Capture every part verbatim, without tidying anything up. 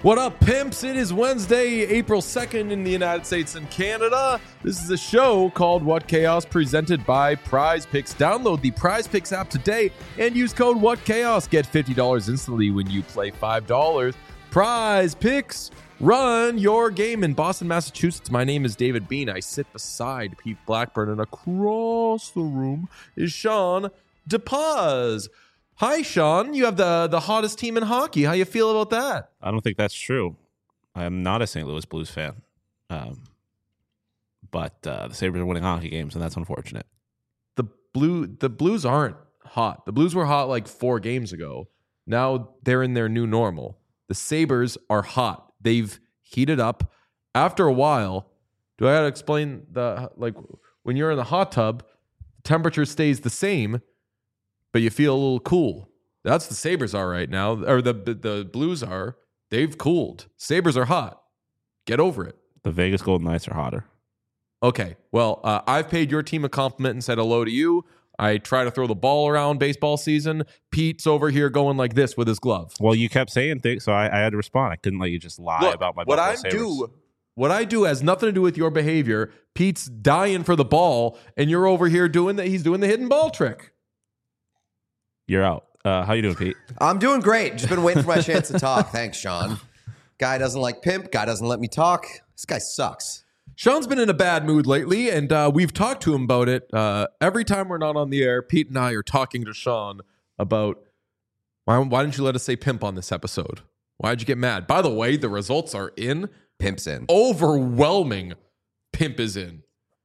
What up, pimps? It is Wednesday, April second in the United States and Canada. This is a show called What Chaos, presented by Prize Picks. Download the Prize Picks app today and use code What Chaos. Get fifty dollars instantly when you play five dollars. Prize Picks, run your game in Boston, Massachusetts. My name is David Bean. I sit beside Pete Blackburn, and across the room is Sean DePaz. Hi, Sean. You have the, the hottest team in hockey. How you feel about that? I don't think that's true. I am not a Saint Louis Blues fan. Um, but uh, the Sabres are winning hockey games, and that's unfortunate. The blue the Blues aren't hot. The Blues were hot like four games ago. Now they're in their new normal. The Sabres are hot. They've heated up. After a while, do I gotta explain the like when you're in the hot tub, the temperature stays the same, but you feel a little cool. That's the Sabres are right now, or the, the the Blues are. They've cooled. Sabres are hot. Get over it. The Vegas Golden Knights are hotter. Okay, well, uh, I've paid your team a compliment and said hello to you. I try to throw the ball around baseball season. Pete's over here going like this with his glove. Well, you kept saying things, so I, I had to respond. I couldn't let you just lie Look, about my what Buffalo I Sabres. do. What I do has nothing to do with your behavior. Pete's dying for the ball, and you're over here doing that. He's doing the hidden ball trick. You're out. Uh, how you doing, Pete? I'm doing great. Just been waiting for my chance to talk. Thanks, Sean. Guy doesn't like pimp. Guy doesn't let me talk. This guy sucks. Sean's been in a bad mood lately, and uh, we've talked to him about it. Uh, every time we're not on the air, Pete and I are talking to Sean about why, why didn't you let us say pimp on this episode? Why'd you get mad? By the way, the results are in. Pimp's in. Overwhelming pimp is in.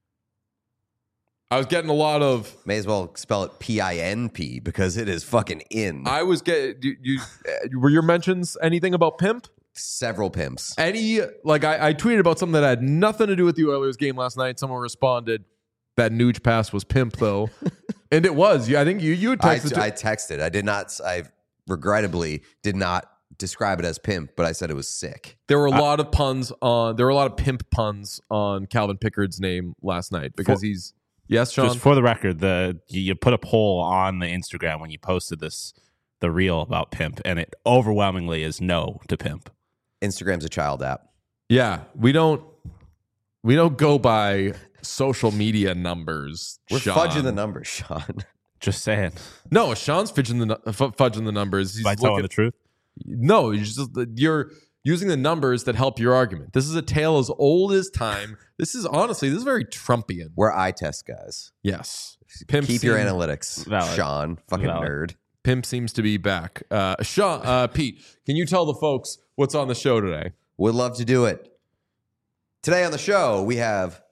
I was getting a lot of. May as well spell it P I N P because it is fucking in. I was getting. You, you, were your mentions anything about pimp? Several pimps. Any, like, I, I tweeted about something that had nothing to do with the Oilers game last night. Someone responded that Nuge pass was pimp, though. And it was. Yeah, I think you, you had I, texted. I texted. I did not. I regrettably did not describe it as pimp, but I said it was sick. There were a I, lot of puns on. There were a lot of pimp puns on Calvin Pickard's name last night because for, he's. Yes, Sean. Just for the record, the you, you put a poll on the Instagram when you posted this, the reel about pimp, and it overwhelmingly is no to pimp. Instagram's a child app. Yeah, we don't. We don't go by social media numbers. We're Sean. fudging the numbers, Sean. Just saying. No, Sean's fudging the f- fudging the numbers. He's By telling looking, the truth. No, you're just you're using the numbers that help your argument. This is a tale as old as time. This is honestly, this is very Trumpian. We're eye test guys. Yes. Pimp Keep seems, your analytics, Valid. Sean. Fucking Valid. nerd. Pimp seems to be back. Uh, Sean, uh, Pete, can you tell the folks what's on the show today? Would love to do it. Today on the show, we have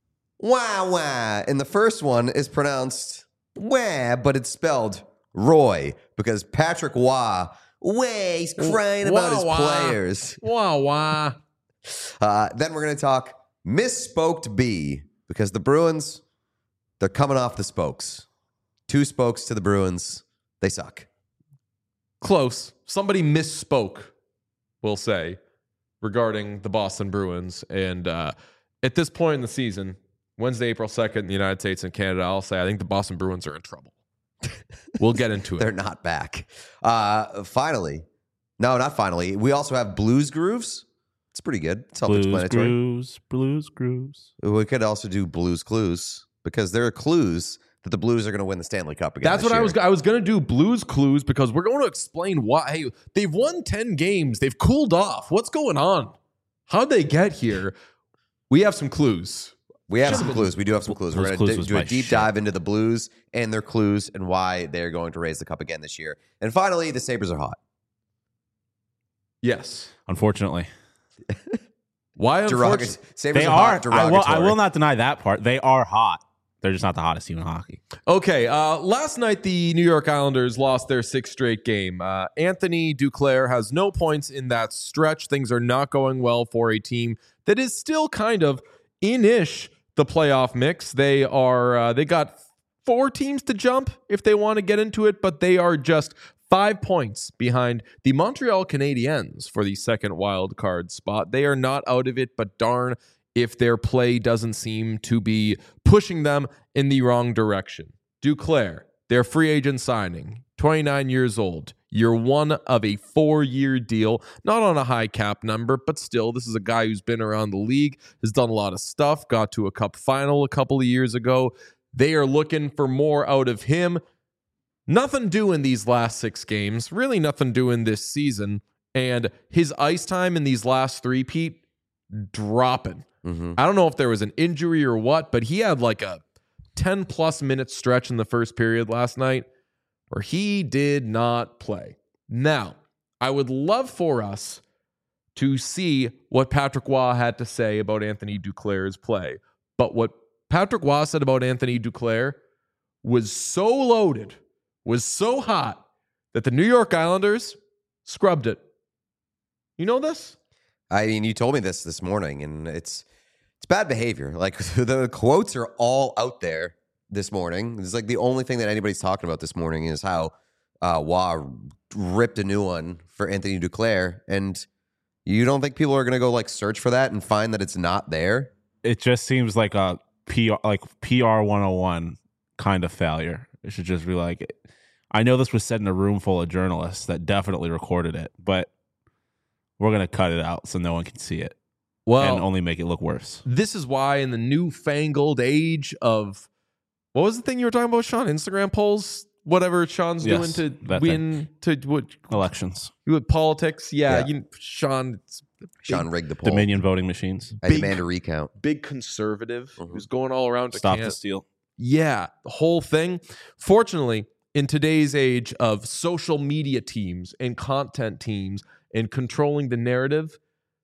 wah wah. And the first one is pronounced wah, but it's spelled Roy because Patrick Wah, wah, he's crying about Wah, his wah. players. Wah, wah. Uh, then we're going to talk misspoked B because the Bruins, they're coming off the spokes. Two spokes to the Bruins. They suck. Close. Somebody misspoke, we'll say, regarding the Boston Bruins. And uh, at this point in the season, Wednesday, April second in the United States and Canada, I'll say I think the Boston Bruins are in trouble. We'll get into it. They're not back. Uh, finally. No, not finally. We also have Blues Grooves. It's pretty good. Blues Self-explanatory. grooves, blues grooves. We could also do Blues Clues because there are clues that the Blues are going to win the Stanley Cup again. That's this what I year. was. I was going to do Blues Clues because we're going to explain why. Hey, they've won ten games. They've cooled off. What's going on? How'd they get here? We have some clues. We have Should've some been- clues. We do have some clues. Blues We're Clues going to was do a my deep shit. dive into the Blues and their clues and why they're going to raise the cup again this year. And finally, the Sabres are hot. Yes. Unfortunately. Why? Derogatory. Unfortunately, Sabres They are are. hot. I will, Derogatory. I will not deny that part. They are hot. They're just not the hottest team in hockey. Okay, uh, last night the New York Islanders lost their sixth straight game. Uh, Anthony Duclair has no points in that stretch. Things are not going well for a team that is still kind of in-ish the playoff mix. They are uh, they got four teams to jump if they want to get into it, but they are just five points behind the Montreal Canadiens for the second wild card spot. They are not out of it, but darn if their play doesn't seem to be pushing them in the wrong direction. Duclair, their free agent signing, twenty-nine years old. Year one of a four-year deal, not on a high cap number, but still, this is a guy who's been around the league, has done a lot of stuff, got to a cup final a couple of years ago. They are looking for more out of him. Nothing doing these last six games, really nothing doing this season. And his ice time in these last three, Pete, dropping. Mm-hmm. I don't know if there was an injury or what, but he had like a ten plus minute stretch in the first period last night where he did not play. Now, I would love for us to see what Patrick Waugh had to say about Anthony Duclair's play. But what Patrick Waugh said about Anthony Duclair was so loaded, was so hot, that the New York Islanders scrubbed it. You know this? I mean, you told me this this morning, and it's it's bad behavior. Like, the quotes are all out there this morning. It's like the only thing that anybody's talking about this morning is how uh, Waugh ripped a new one for Anthony Duclair, and you don't think people are going to go like search for that and find that it's not there? It just seems like a P R, like P R one oh one kind of failure. It should just be like, I know this was said in a room full of journalists that definitely recorded it, but we're going to cut it out so no one can see it. Well, and only make it look worse. This is why in the newfangled age of, what was the thing you were talking about, Sean? Instagram polls? Whatever Sean's Yes, doing to that win, to what? Elections. With politics? Yeah, Yeah. You, Sean. It's Sean big, rigged the poll. Dominion voting machines. I big- demand a recount. big conservative Mhm. who's going all around to Stop can- the steal. Yeah, the whole thing. Fortunately, in today's age of social media teams and content teams and controlling the narrative,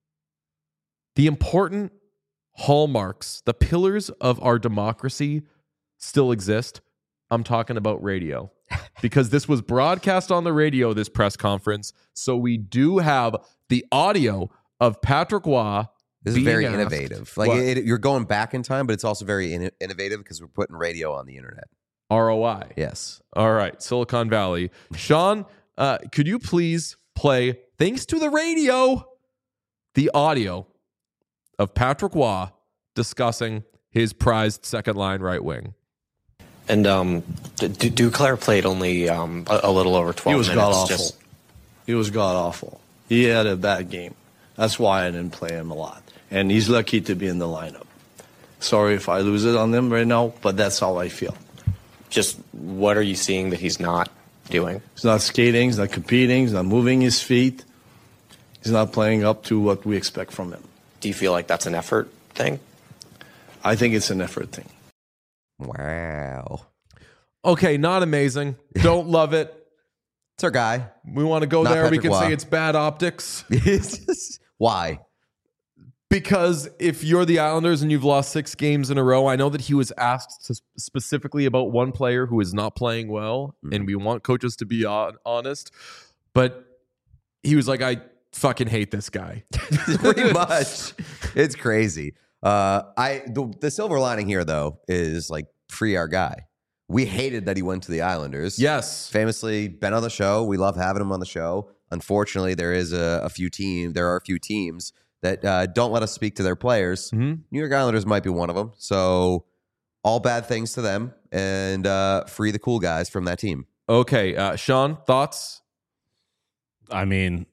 the important hallmarks, the pillars of our democracy still exist. I'm talking about radio because this was broadcast on the radio, this press conference. So we do have the audio of Patrick Waugh. This is being very asked- innovative. Like, What? it, you're going back in time, but it's also very in- innovative because we're putting radio on the internet. R O I. Yes. All right, Silicon Valley. Sean, uh, could you please play, thanks to the radio, the audio of Patrick Waugh discussing his prized second line right wing? And um, D- D- Duclair played only um, a, a little over twelve He was minutes. god awful. Just, He was god awful. He had a bad game. That's why I didn't play him a lot. And he's lucky to be in the lineup. Sorry if I lose it on him right now, but that's how I feel. just what are you seeing that he's not doing? He's not skating, he's not competing, he's not moving his feet. He's not playing up to what we expect from him. Do you feel like that's an effort thing? I think it's an effort thing. Wow. Okay, not amazing. Don't love it. It's our guy. We want to go Not there. we Patrick can Waugh. say it's bad optics. It's just- why? Because if you're the Islanders and you've lost six games in a row, I know that he was asked to specifically about one player who is not playing well, Mm-hmm. and we want coaches to be on, honest. But he was like, I fucking hate this guy. Pretty much. It's crazy. Uh, I the, the silver lining here, though, is like free our guy. We hated that he went to the Islanders. Yes. Famously been on the show. We love having him on the show. Unfortunately, there is a, a few team. There are a few teams that uh, don't let us speak to their players. Mhm. New York Islanders might be one of them. So all bad things to them, and uh, free the cool guys from that team. Okay, uh, Sean, thoughts? I mean,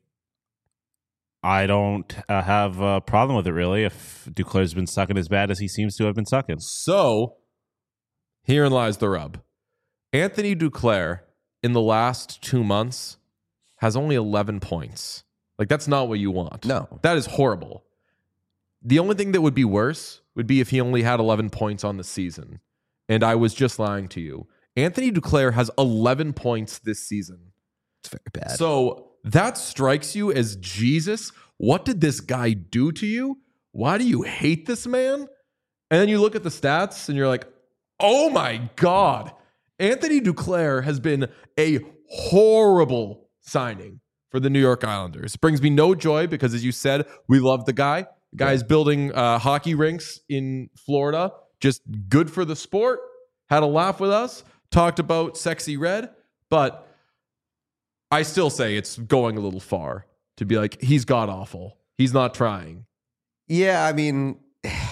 I don't uh, have a problem with it, really, if Duclair's been sucking as bad as he seems to have been sucking. So herein lies the rub. Anthony Duclair in the last two months has only eleven points. Like, that's not what you want. No. That is horrible. The only thing that would be worse would be if he only had eleven points on the season. And I was just lying to you. Anthony Duclair has eleven points this season. It's very bad. So that strikes you as, Jesus, what did this guy do to you? Why do you hate this man? And then you look at the stats and you're like, oh my God. Anthony Duclair has been a horrible signing for the New York Islanders. Brings me no joy because, as you said, we love the guy. The guy's building uh, hockey rinks in Florida. Just good for the sport. Had a laugh with us. Talked about Sexy Red. But I still say it's going a little far to be like, he's god awful. He's not trying. Yeah, I mean,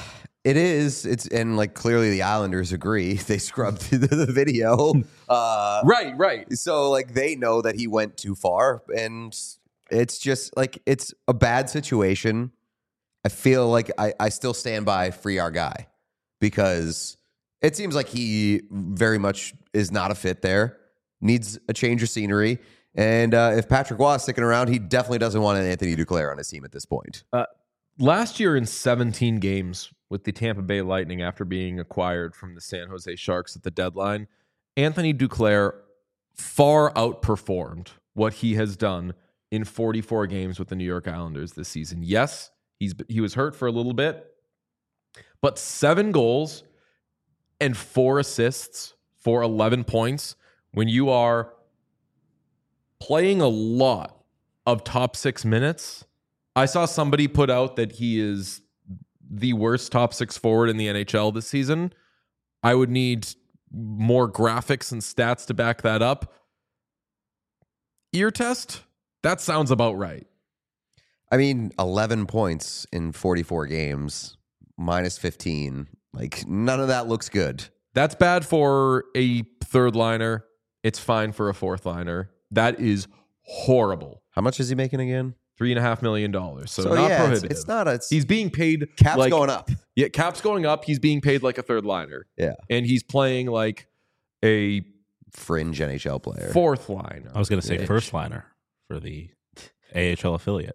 It is. It's and like clearly the Islanders agree. They scrubbed the, the video. Uh, Right, right. So like they know that he went too far, and it's just like it's a bad situation. I feel like I, I still stand by free our guy because it seems like he very much is not a fit there. Needs a change of scenery. And uh, if Patrick Waugh is sticking around, he definitely doesn't want an Anthony Duclair on his team at this point. Uh, last year in seventeen games with the Tampa Bay Lightning after being acquired from the San Jose Sharks at the deadline, Anthony Duclair far outperformed what he has done in forty-four games with the New York Islanders this season. Yes, he's he was hurt for a little bit, but seven goals and four assists for eleven points when you are playing a lot of top six minutes. I saw somebody put out that he is the worst top six forward in the N H L this season. I would need more graphics and stats to back that up. Ear test? That sounds about right. I mean, eleven points in forty-four games, minus fifteen. Like, none of that looks good. That's bad for a third liner. It's fine for a fourth liner. That is horrible. How much is he making again? Three and a half million dollars. So, So, not yeah, it's, prohibitive. it's not a... It's, He's being paid cap's like, going up. Yeah, cap's going up. He's being paid like a third liner. Yeah. And he's playing like a Fringe N H L player. fourth liner. I was going to say Yeah. first liner for the A H L affiliate.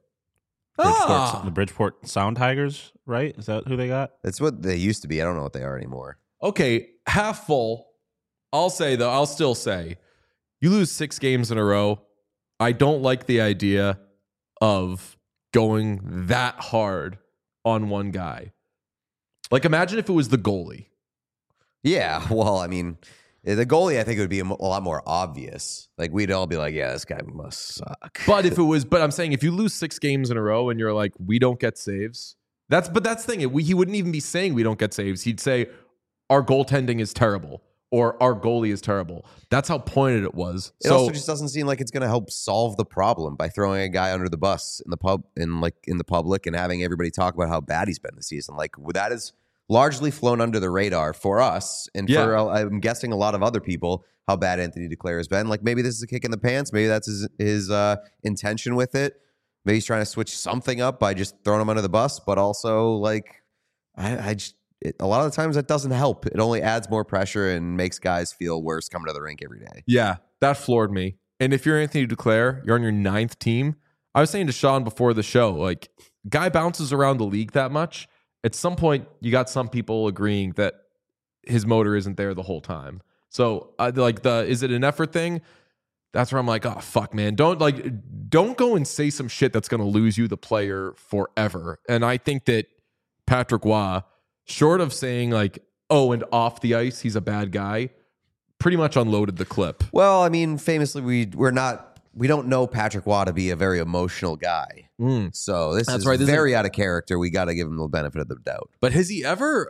Ah! Bridgeport, the Bridgeport Sound Tigers, right? Is that who they got? That's what they used to be. I don't know what they are anymore. Okay, half full. I'll say, though, I'll still say, you lose six games in a row. I don't like the idea of going that hard on one guy. Like, imagine if it was the goalie. Yeah, well, I mean, the goalie, I think it would be a mo- a lot more obvious. Like, we'd all be like, yeah, this guy must suck. But if it was, but I'm saying if you lose six games in a row and you're like, we don't get saves, that's, but that's the thing. We, he wouldn't even be saying we don't get saves. He'd say our goaltending is terrible or our goalie is terrible. That's how pointed it was. It so also just doesn't seem like it's going to help solve the problem by throwing a guy under the bus in the pub, in like in the public, and having everybody talk about how bad he's been this season. Like, that is largely flown under the radar for us, and Yeah. for uh, I'm guessing a lot of other people, how bad Anthony Duclair has been. Like, maybe this is a kick in the pants. Maybe that's his his uh, intention with it. Maybe he's trying to switch something up by just throwing him under the bus. But also, like, I, I just it, a lot of the times that doesn't help. It only adds more pressure and makes guys feel worse coming to the rink every day. yeah, that floored me. And if you're Anthony Duclair, you're on your ninth team. I was saying to Sean before the show, like, guy bounces around the league that much. At some point, you got some people agreeing that his motor isn't there the whole time. So, uh, like, the is it an effort thing? That's where I'm like, oh fuck, man, don't like, don't go and say some shit that's going to lose you the player forever. And I think that Patrick Waugh, short of saying like, oh, and off the ice he's a bad guy, pretty much unloaded the clip. Well, I mean, famously, we we're not we don't know Patrick Waugh to be a very emotional guy. Mm. So this That's is right, this is- very out of character. We got to give him the benefit of the doubt. But has he ever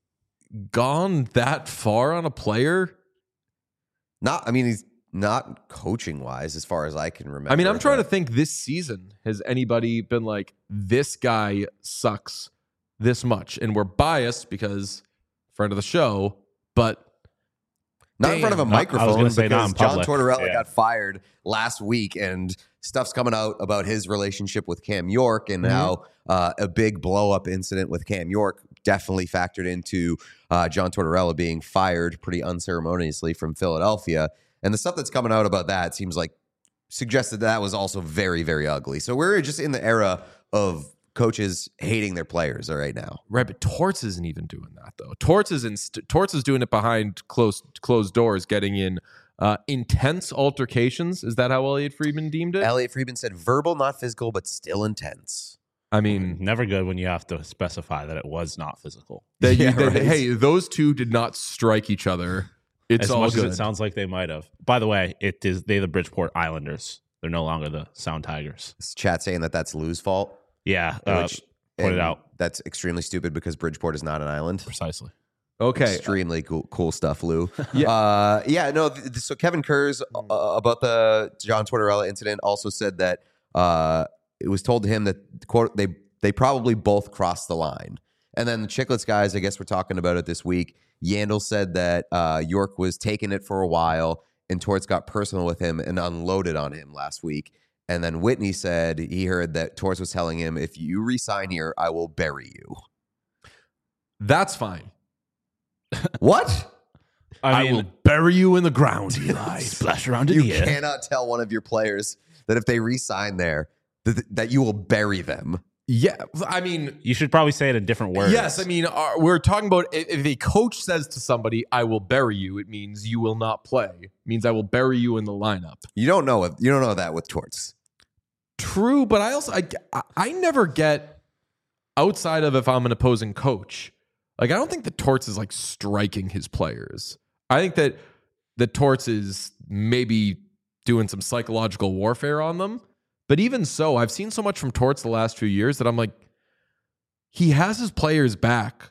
gone that far on a player? Not, I mean, he's not coaching wise, as far as I can remember. I mean, I'm trying to but- think this season, has anybody been like, this guy sucks this much? And we're biased because friend of the show, but Not in front of a Damn. Not- I was microphone gonna say because not in John public. Tortorella Yeah. got fired last week, and stuff's coming out about his relationship with Cam York, and Mhm. how uh, a big blow up incident with Cam York definitely factored into uh, John Tortorella being fired pretty unceremoniously from Philadelphia. And the stuff that's coming out about that seems like suggested that was also very, very ugly. So we're just in the era of coaches hating their players right now. right, but Torts isn't even doing that though. Torts is in st- Torts is doing it behind closed closed doors, getting in uh, intense altercations. Is that how Elliot Friedman deemed it? Elliot Friedman said verbal, not physical, but still intense. I mean, Never good when you have to specify that it was not physical. that you, Yeah, that- right. hey, those two did not strike each other. It's as all much good. as it sounds like they might have. By the way, it is they the Bridgeport Islanders. They're no longer the Sound Tigers. This chat saying that that's Lou's fault. Yeah, uh, which pointed and out. That's extremely stupid because Bridgeport is not an island. precisely. Okay, Extremely cool, cool stuff, Lou. Yeah. uh, yeah. No. Th- th- so Kevin Kurz uh, about the John Tortorella incident also said that uh, it was told to him that quote they they probably both crossed the line, And then the Chicklets guys, I guess we're talking about it this week. Yandel said that uh, York was taking it for a while, and Torts got personal with him and unloaded on him last week. And then Whitney said he heard that Torts was telling him, if you re-sign here, I will bury you. That's fine. What? I, I, mean, will bury you in the ground, Eli. splash around in You the air. cannot tell one of your players that if they re-sign there, that, that you will bury them. Yeah, I mean, You should probably say it in different words. yes, I mean, uh, we're talking about if, if a coach says to somebody, I will bury you, it means you will not play. It means I will bury you in the lineup. You don't know it. You don't know that with Torts. True, but I also, I, I, I never get outside of if I'm an opposing coach. Like, I don't think that Torts is like striking his players. I think that the Torts is maybe doing some psychological warfare on them. But even so, I've seen so much from Torts the last few years that I'm like, he has his players back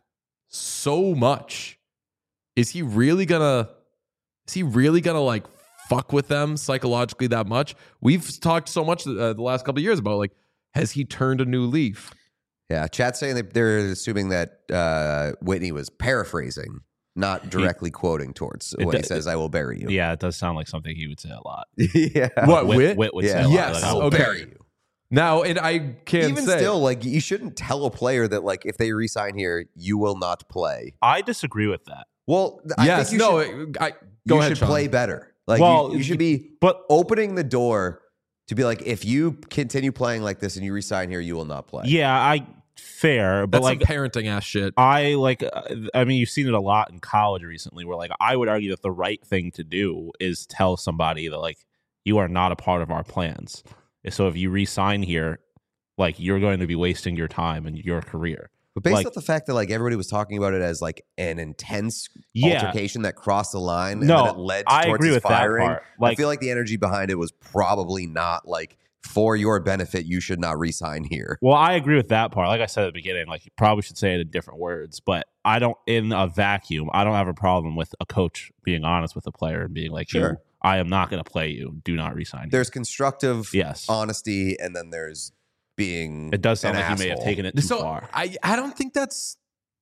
so much. Is he really gonna, is he really gonna like fuck with them psychologically that much? We've talked so much uh, the last couple of years about like, has he turned a new leaf? Yeah, chat's saying that they're assuming that uh, Whitney was paraphrasing, not directly quoting Torts when d- he says, I will bury you. Yeah, it does sound like something he would say a lot. yeah. What, Wit, Wit? Wit would Yeah. say a lot. Yes, Like, I will okay. bury you. Now, and I can't Even say. still, like, you shouldn't tell a player that, like, if they resign here, you will not play. I disagree with that. Well, I yes, think you no, should, I, go you ahead, should Sean. play better. Like, Well, you, you should be But opening the door to be like, if you continue playing like this and you resign here, you will not play. yeah, I fair, but That's like some parenting ass shit. I like uh, I mean you've seen it a lot in college recently where like I would argue that the right thing to do is tell somebody that like you are not a part of our plans. So if you re-sign here, like you're going to be wasting your time and your career. But based Like- off the fact that like everybody was talking about it as like an intense Yeah. altercation that crossed the line and No, then it led to I towards agree his with that firing, part. I Like- feel like the energy behind it was probably not like for your benefit. You should not re-sign here. Well, I agree with that part. Like I said at the beginning, like you probably should say it in different words, but I don't in a vacuum, I don't have a problem with a coach being honest with a player and being like, Sure. you, I am not going to play you. Do not re-sign. There's constructive Yes. honesty, and then there's being. It does sound an like you may have asshole. taken it too so far. I, I don't think that's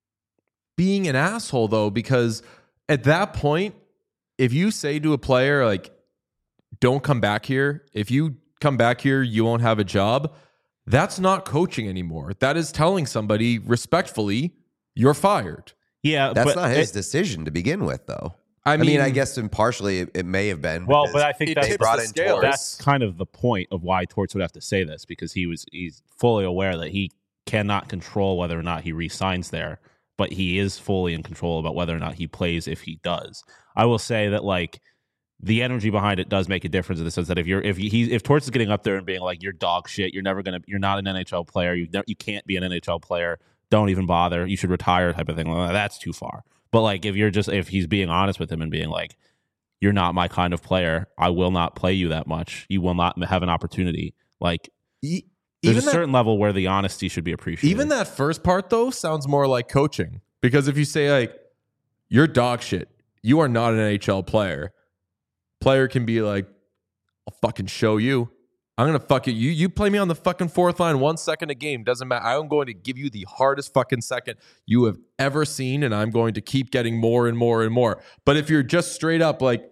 being an asshole though, because at that point, if you say to a player like, don't come back here, if you come back here, you won't have a job. That's not coaching anymore. That is telling somebody respectfully, you're fired. yeah, That's but not his it- decision to begin with, though. I I mean, mean, I guess impartially it, it may have been. Well, because but I think it that's they tips brought the in scales. Torts. that's kind of the point of why Torts would have to say this, because he was he's fully aware that he cannot control whether or not he re-signs there, but he is fully in control about whether or not he plays if he does. I will say that like the energy behind it does make a difference in the sense that if you're if he if Torts is getting up there and being like you're dog shit, you're never gonna you're not an N H L player, you you can't be an N H L player, don't even bother, you should retire type of thing. Well, that's too far. But like if you're just if he's being honest with him and being like, you're not my kind of player, I will not play you that much, you will not have an opportunity. Like e- there's even a that, certain level where the honesty should be appreciated. even that first part though sounds more like coaching, because if you say like, you're dog shit, you are not an N H L player. Player can be like, I'll fucking show you. I'm gonna fuck it. You you play me on the fucking fourth line one second a game. Doesn't matter. I'm going to give you the hardest fucking second you have ever seen, and I'm going to keep getting more and more and more. But if you're just straight up like,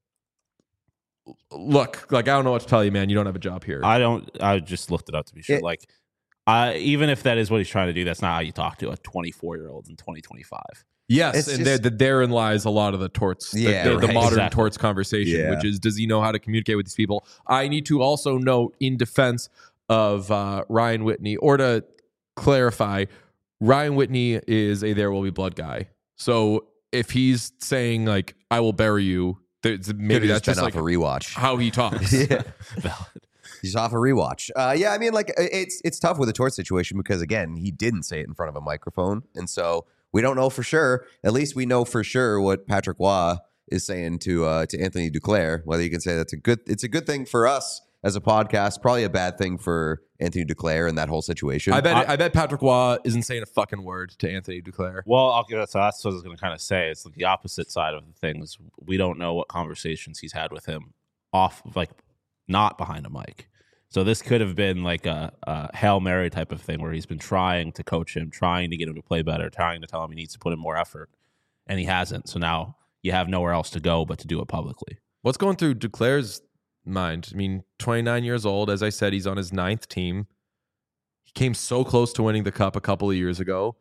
look, like I don't know what to tell you, man. You don't have a job here. I don't I just looked it up to be sure. It- like I even if that is what he's trying to do, that's not how you talk to a twenty-four year old in twenty twenty-five. yes, It's and just- there, the, therein lies a lot of the torts, the- Yeah, the, the right. modern Exactly. torts conversation, Yeah. which is, does he know how to communicate with these people? I need to also note in defense of uh, Ryan Whitney, or to clarify, Ryan Whitney is a There Will Be Blood guy. So if he's saying like, I will bury you, there's, maybe Maybe that's just been just like off a rewatch. how he talks. yeah. Valid. He's off a rewatch. Uh, yeah, I mean, like it's it's tough with the Torts situation because again, he didn't say it in front of a microphone, and so we don't know for sure. At least we know for sure what Patrick Waugh is saying to uh, to Anthony Duclair. Whether you can say that's a good, it's a good thing for us as a podcast, probably a bad thing for Anthony Duclair and that whole situation. I bet I- I, bet Patrick Waugh isn't saying a fucking word to Anthony Duclair. Well, I'll give so that's what I was going to kind of say. It's like the opposite side of the things. We don't know what conversations he's had with him off, like not behind a mic. So this could have been like a, a Hail Mary type of thing where he's been trying to coach him, trying to get him to play better, trying to tell him he needs to put in more effort, and he hasn't. So now you have nowhere else to go but to do it publicly. What's going through Duclair's mind? I mean, twenty-nine years old. As I said, he's on his ninth team. He came so close to winning the cup a couple of years ago.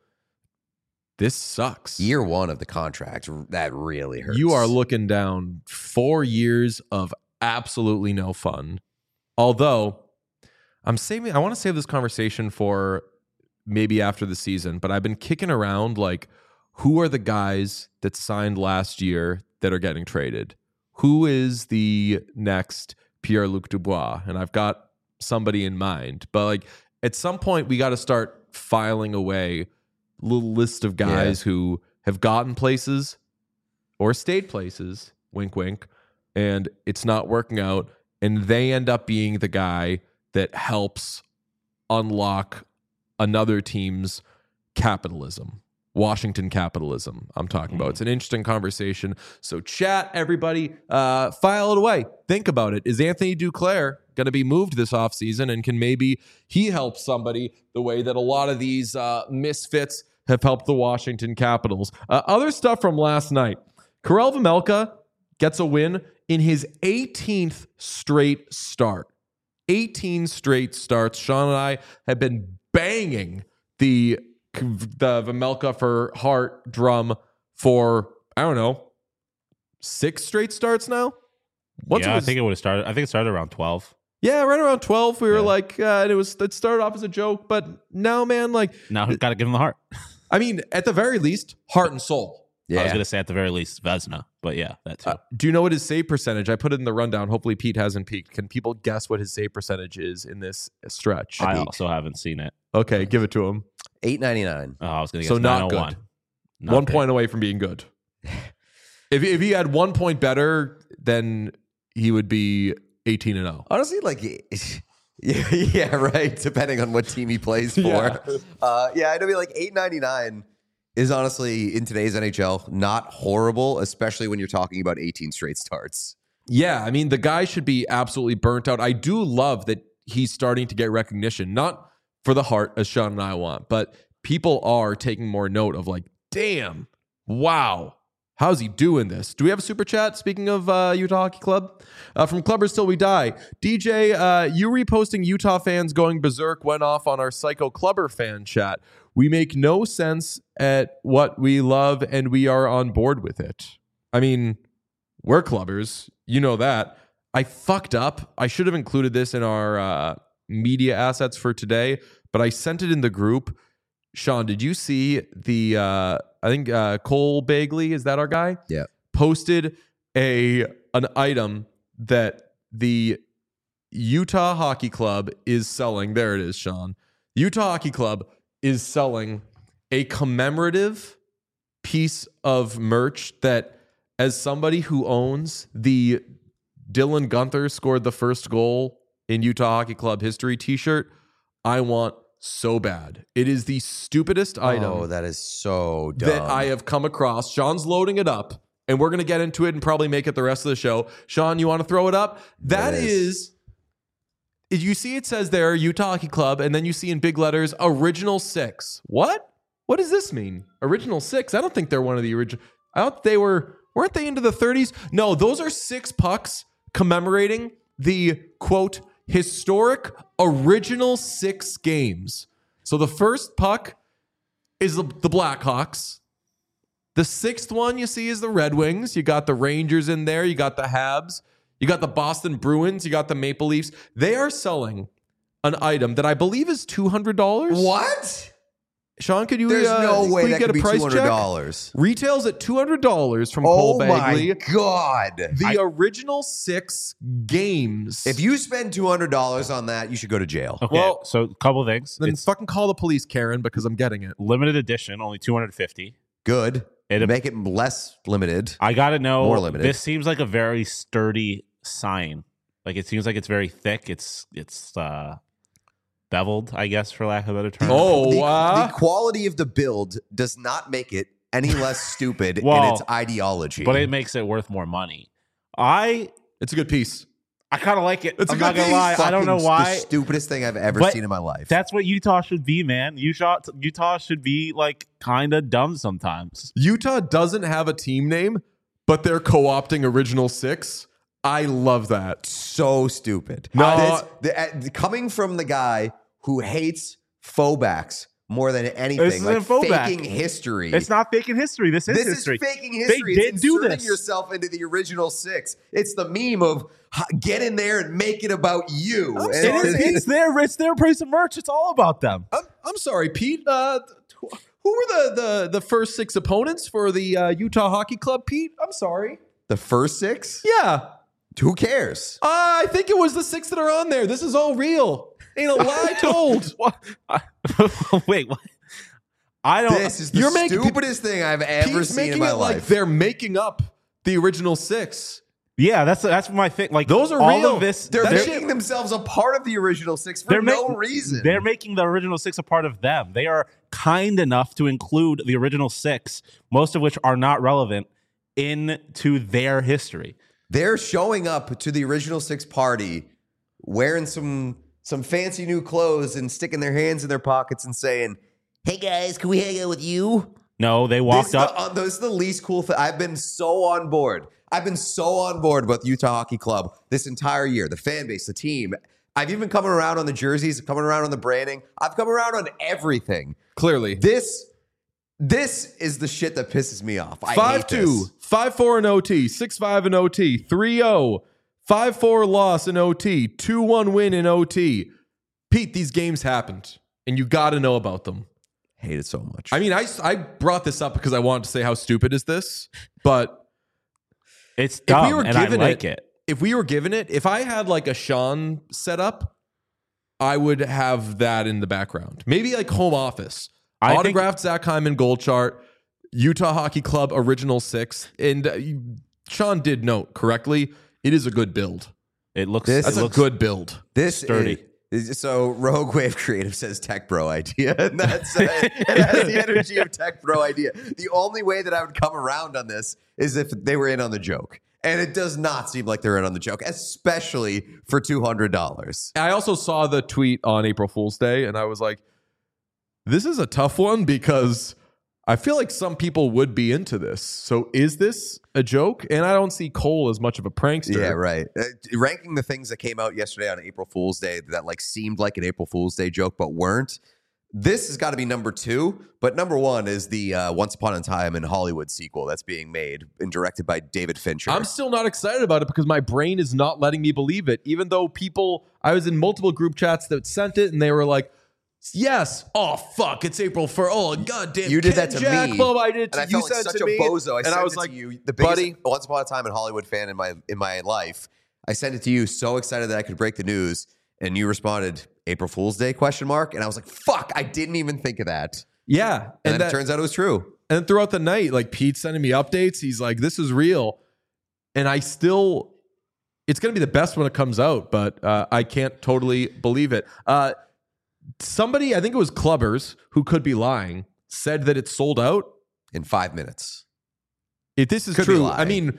This sucks. Year one of the contract, that really hurts. You are looking down four years of absolutely no fun. Although I'm saving, I want to save this conversation for maybe after the season, but I've been kicking around like, who are the guys that signed last year that are getting traded? Who is the next Pierre-Luc Dubois? And I've got somebody in mind, but like at some point we got to start filing away a little list of guys yeah. who have gotten places or stayed places, wink, wink, and it's not working out. And they end up being the guy that helps unlock another team's capitalism. Washington capitalism, I'm talking about. It's an interesting conversation. So chat, everybody, uh, file it away. Think about it. Is Anthony Duclair going to be moved this offseason? And can maybe he help somebody the way that a lot of these uh, misfits have helped the Washington Capitals? Uh, other stuff from last night. Karel Vejmelka gets a win in his eighteenth straight start. eighteen straight starts. Sean and I have been banging the the Vejmelka for Hart drum for, I don't know, six straight starts now? Once yeah, was, I think it would have started. I think it started around twelve. Yeah, right around twelve. We were yeah. like, uh, and it was it started off as a joke, but now, man, like now got to give him the heart. I mean, at the very least, heart and soul. Yeah. I was gonna say at the very least Vezina, but yeah, that too. Uh, do you know what his save percentage? I put it in the rundown. Hopefully, Pete hasn't peeked. Can people guess what his save percentage is in this stretch? I also haven't seen it. Okay, give it to him. eight ninety-nine. Oh, I was going to guess so not nine oh one. good. Not one big. point away from being good. if if he had one point better, then he would be eighteen and oh. Honestly, like, yeah, yeah, right. Depending on what team he plays for. Yeah, uh, yeah I'd be like eight ninety-nine is honestly in today's N H L not horrible, especially when you're talking about eighteen straight starts. Yeah, I mean, the guy should be absolutely burnt out. I do love that he's starting to get recognition, not for the heart, as Sean and I want, but people are taking more note of like, damn, wow, how's he doing this? Do we have a super chat? Speaking of uh, Utah Hockey Club, uh, from Clubbers Till We Die, D J, uh, you reposting Utah fans going berserk went off on our Psycho Clubber fan chat. We make no sense at what we love, and we are on board with it. I mean, we're Clubbers, you know that. I fucked up. I should have included this in our uh, media assets for today, but I sent it in the group. Sean, did you see the, uh, I think uh, Cole Bagley, is that our guy? Yeah. Posted a an item that the Utah Hockey Club is selling. There it is, Sean. Utah Hockey Club is selling a commemorative piece of merch that, as somebody who owns the Dylan Gunther scored the first goal in Utah Hockey Club history t-shirt, I want so bad. It is the stupidest item. Oh, that is so dumb. That I have come across. Sean's loading it up, and we're going to get into it and probably make it the rest of the show. Sean, you want to throw it up? That It is. is, you see it says there, Utah Hockey Club, and then you see in big letters, Original Six. What? What does this mean? Original Six? I don't think they're one of the original. I thought they were, weren't they into the thirties? No, those are six pucks commemorating the, quote, historic original six games. So the first puck is the, the Blackhawks. The sixth one you see is the Red Wings. You got the Rangers in there. You got the Habs. You got the Boston Bruins. You got the Maple Leafs. They are selling an item that I believe is two hundred dollars. What? Sean, could you, There's uh, no way could you that get could a be price two hundred dollars. check? Retails at two hundred dollars from Oh Cole Bagley. my God. The I- original six games. If you spend two hundred dollars on that, you should go to jail. Okay, Well- so a couple things. then It's fucking call the police, Karen, because I'm getting it. limited edition, only two hundred fifty. Good. It- Make it less limited. I gotta know. More limited. This seems like a very sturdy sign. Like it seems like it's very thick. It's it's uh, beveled, I guess, for lack of a better term. Oh, the, wow. the quality of the build does not make it any less stupid Well, in its ideology. but it makes it worth more money. I It's a good piece. I kind of like it. It's a I'm good not gonna thing. lie. I don't know Fucking why. The stupidest thing I've ever But seen in my life. That's what Utah should be, man. Utah, Utah should be like kind of dumb sometimes. Utah doesn't have a team name, but they're co-opting Original Six. I love that. So stupid. No. This- the- uh, coming from the guy who hates faux more than anything, This isn't like a faux back. faking history. It's not faking history. This is This history. is faking history. They it's did do inserting this. yourself into the Original Six. It's the meme of "Ha- get in there and make it about you. I'm And sorry. It is, it's- it's their it's their price of merch. It's all about them. I'm, I'm sorry, Pete. Uh, who were the, the, the first six opponents for the uh, Utah Hockey Club, Pete? I'm sorry. the first six? Yeah. Who cares? Uh, I think it was the six that are on there. This is all real. Ain't a lie told. What? I- Wait, what? I don't. This is the You're making- stupidest thing I've ever Pete's seen making in my it like life. they're making up the original six. Yeah, that's that's my thing. Like Those are all real. of this. They're, they're, making themselves a part of the Original Six for they're no making- reason. They're making the original six a part of them. They are kind enough to include the original six, most of which are not relevant, into their history. They're showing up to the Original Six party wearing some some fancy new clothes and sticking their hands in their pockets and saying, "Hey guys, can we hang out with you?" No, they This walked is the, up. uh, this is the least cool thing. I've been so on board. I've been so on board with Utah Hockey Club this entire year. The fan base, the team. I've even come around on the jerseys, coming around on the branding. I've come around on everything. Clearly. This, this is the shit that pisses me off. I five hate two, this. five four in O T, six five in O T, three oh, five four loss in O T, two one win in O T. Pete, these games happened, and you got to know about them. Hate it so much. I mean, I, I brought this up because I wanted to say how stupid is this, but It's if dumb, we were and I given like it, it. if we were given it, if I had like a Sean setup, I would have that in the background. Maybe like home office. I think- Autographed Zach Hyman gold chart, Utah Hockey Club original six. And uh, you- Sean did note correctly, it is a good build. It looks. This- That's it a looks good build. This Sturdy. Is, is- so Rogue Wave Creative says Tech Bro idea, and that's uh, it has the energy of Tech Bro idea. The only way that I would come around on this is if they were in on the joke, and it does not seem like they're in on the joke, especially for two hundred dollars. I also saw the tweet on April Fool's Day, and I was like, this is a tough one because I feel like some people would be into this. So is this a joke? And I don't see Cole as much of a prankster. Yeah, right. Uh, ranking the things that came out yesterday on April Fool's Day that like seemed like an April Fool's Day joke but weren't. This has got to be number two, but number one is the uh, Once Upon a Time in Hollywood sequel that's being made and directed by David Fincher. I'm still not excited about it because my brain is not letting me believe it. Even though people, I was in multiple group chats that sent it and they were like, yes, oh fuck, it's April first. Oh goddamn, You did Ken that to Jack me. Club, I did it and to I you. felt like Sent such to a me, bozo. I and sent I was it like, to you, the biggest buddy, Once Upon a Time in Hollywood fan in my in my life. I sent it to you, so excited that I could break the news, and you responded, "April Fool's Day?" question mark, and I was like, "Fuck, I didn't even think of that." yeah, And, and then that, it turns out it was true. And then throughout the night, like Pete sending me updates, he's like, this is real. And I still, it's going to be the best when it comes out, but uh, I can't totally believe it. Uh, somebody, I think it was Clubbers, who could be lying, said that it's sold out. In five minutes. If this is Could be true, lying. I mean,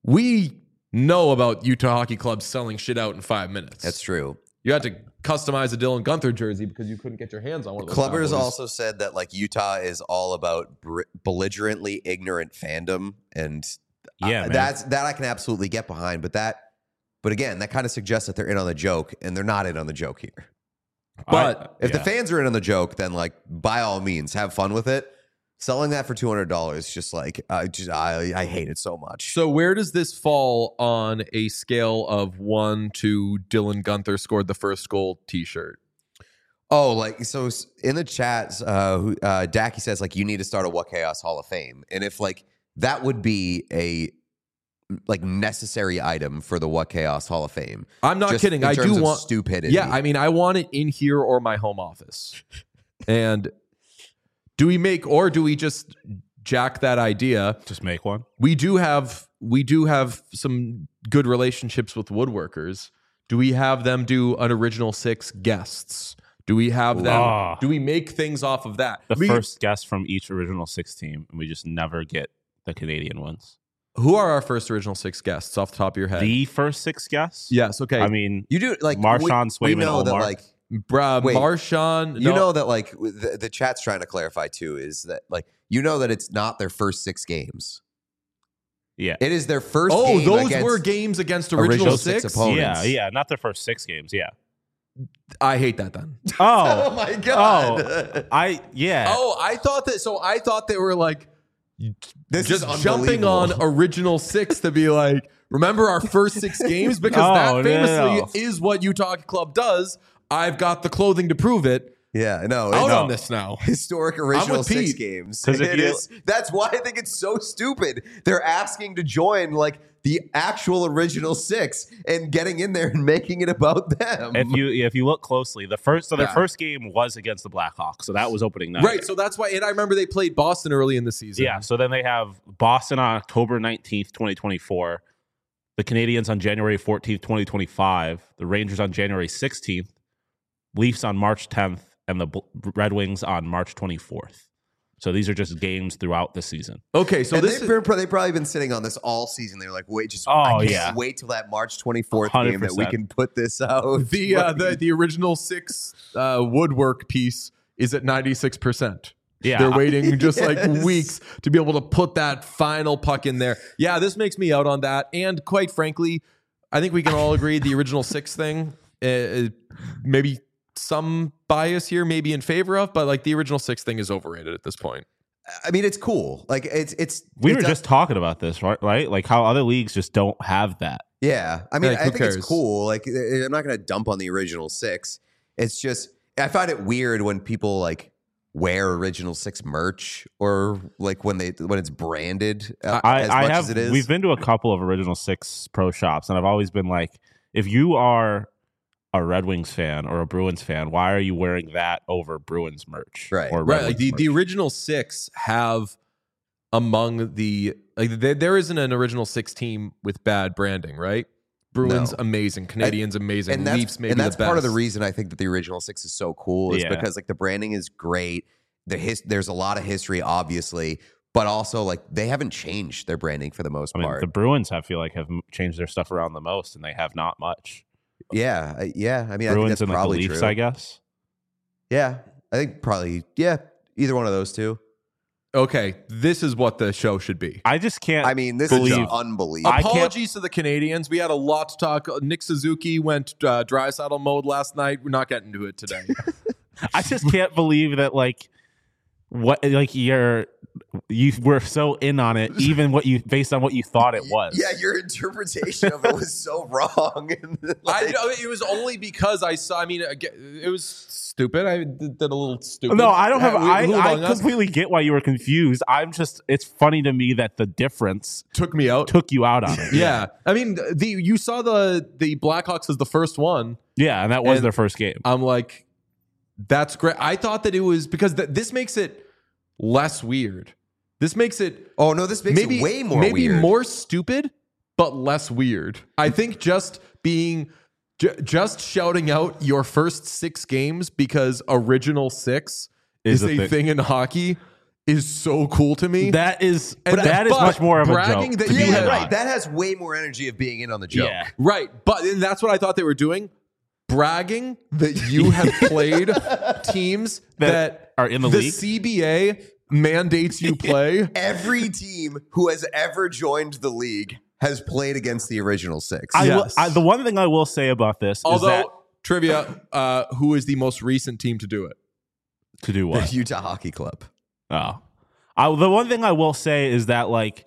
we know about Utah Hockey Club selling shit out in five minutes. That's true. You had to customize a Dylan Gunther jersey because you couldn't get your hands on one of those. Clubbers bad boys. also said that like Utah is all about br- belligerently ignorant fandom, and Yeah, uh, man. that's that I can absolutely get behind. But that, but again, that kind of suggests that they're in on the joke, and they're not in on the joke here. But I- If the yeah. fans are in on the joke, then like by all means, have fun with it. Selling that for two hundred dollars, just like I just I, I hate it so much. So where does this fall on a scale of one to Dylan Gunther scored the first goal T-shirt? Oh, like so s- in the chats, uh, who, uh, Dacky says like you need to start a What Chaos Hall of Fame, and if like that would be a like necessary item for the What Chaos Hall of Fame. I'm not Just kidding. in I terms do of want stupidity. Yeah, I mean, I want it in here or my home office. And do we make or do we just jack that idea? Just make one. We do have we do have some good relationships with woodworkers. Do we have them do an original six guests? Do we have them? Ah. Do we make things off of that? The We- first guest from each original six team, and we just never get the Canadian ones. Who are our first original six guests off the top of your head? The first six guests? yes. Okay. I mean, You do like Marshawn, we, we Swayman, know that Omar. like Bruh, Wait. Marshawn. you no, know that like the, the chat's trying to clarify too is that like you know that it's not their first six games. yeah. It is their first. Oh, game those against were games against original, original six. six opponents. Yeah, yeah, not their first six games. Yeah. I hate that then. Oh Oh, my god! oh, I yeah. Oh, I thought that. So I thought they were like This just is jumping on unbelievable. original six to be like, remember our first six games? Because Oh, that no, famously no, no. is what Utah Hockey Club does. I've got the clothing to prove it. Yeah, no, Out it's on this now. historic original with six Pete. games. 'Cause if It you- is- that's why I think it's so stupid. They're asking to join like the actual original six and getting in there and making it about them. If you if you look closely, the first so their Yeah. first game was against the Blackhawks, so that was opening night. Right. So that's why. And I remember they played Boston early in the season. Yeah. So then they have Boston on October nineteenth, twenty twenty four, the Canadians on January fourteenth, twenty twenty five, the Rangers on January sixteenth, Leafs on March tenth, and the Bl- Red Wings on March twenty fourth. So these are just games throughout the season. Okay. So and this they've, is, been, they've probably been sitting on this all season. They're like, wait, just Oh, I can't yeah. wait till that March twenty-fourth one hundred game that we percent. can put this out. the uh, the the original six uh, woodwork piece is at ninety-six percent. Yeah. They're waiting just like Yes. weeks to be able to put that final puck in there. Yeah, this makes me out on that. And quite frankly, I think we can all agree the original six thing, uh, maybe some bias here, maybe in favor of, but like the original six thing is overrated at this point. I mean, it's cool. Like it's it's We it's were a- just talking about this, right? Right? Like how other leagues just don't have that. yeah. I mean, Like, I who think cares? it's cool. Like I- I'm not going to dump on the original six. It's just I find it weird when people like wear original six merch or like when they when it's branded uh, I, as I much have. as it is. We've been to a couple of Original Six pro shops, and I've always been like, if you are a Red Wings fan or a Bruins fan, why are you wearing that over Bruins merch? Right. Or Red Right. Like Wings the, the merch? original six have among the like there, there isn't an original six team with bad branding, right? Bruins No. amazing, Canadians amazing, and that's, Leafs maybe and that's the best. part of the reason I think that the original six is so cool is Yeah. because like the branding is great. The his, there's a lot of history, obviously, but also like they haven't changed their branding for the most I mean, part. the Bruins I feel like have m- changed their stuff around the most, and they have not much. yeah, I- yeah. I mean, I think Bruins that's and like the probably Leafs, true. I guess. Yeah, I think probably yeah, either one of those two. Okay, this is what the show should be. I just can't. I mean, this believe- is unbelievable. I can't- Apologies to the Canadians. We had a lot to talk. Nick Suzuki went uh, dry saddle mode last night. We're not getting to it today. I just can't believe that like what like you're you were so in on it, even what you based on what you thought it was. Yeah, your interpretation of it was so wrong. And, I like, know it was only because I saw. I mean, again, it was stupid. I did, did a little stupid. No, I don't have. Yeah, I, who I among us completely get why you were confused. I'm just. It's funny to me that the difference took me out. took you out on it. Yeah, I mean, the you saw the the Blackhawks as the first one. yeah, and that was And- their first game. I'm like, that's great. I thought that it was because th- this makes it less weird. This makes it oh no, this makes maybe it way more maybe weird. more stupid, but less weird. I think just being ju- just shouting out your first six games because original six Is is, a a thing. thing. in hockey is so cool to me. That is. And But that is but much more of a bragging joke. that to you be yeah, had- right. honest. That has way more energy of being in on the joke. Yeah. Right. But and that's what I thought they were doing. Bragging that you have played teams That that, are in the the league? C B A mandates you play. Every team who has ever joined the league has played against the original six. I will, Yes. I, the one thing I will say about this Although is that trivia, uh, who is the most recent team to do it? to do the what? Utah Hockey Club. Oh, I, the one thing I will say is that like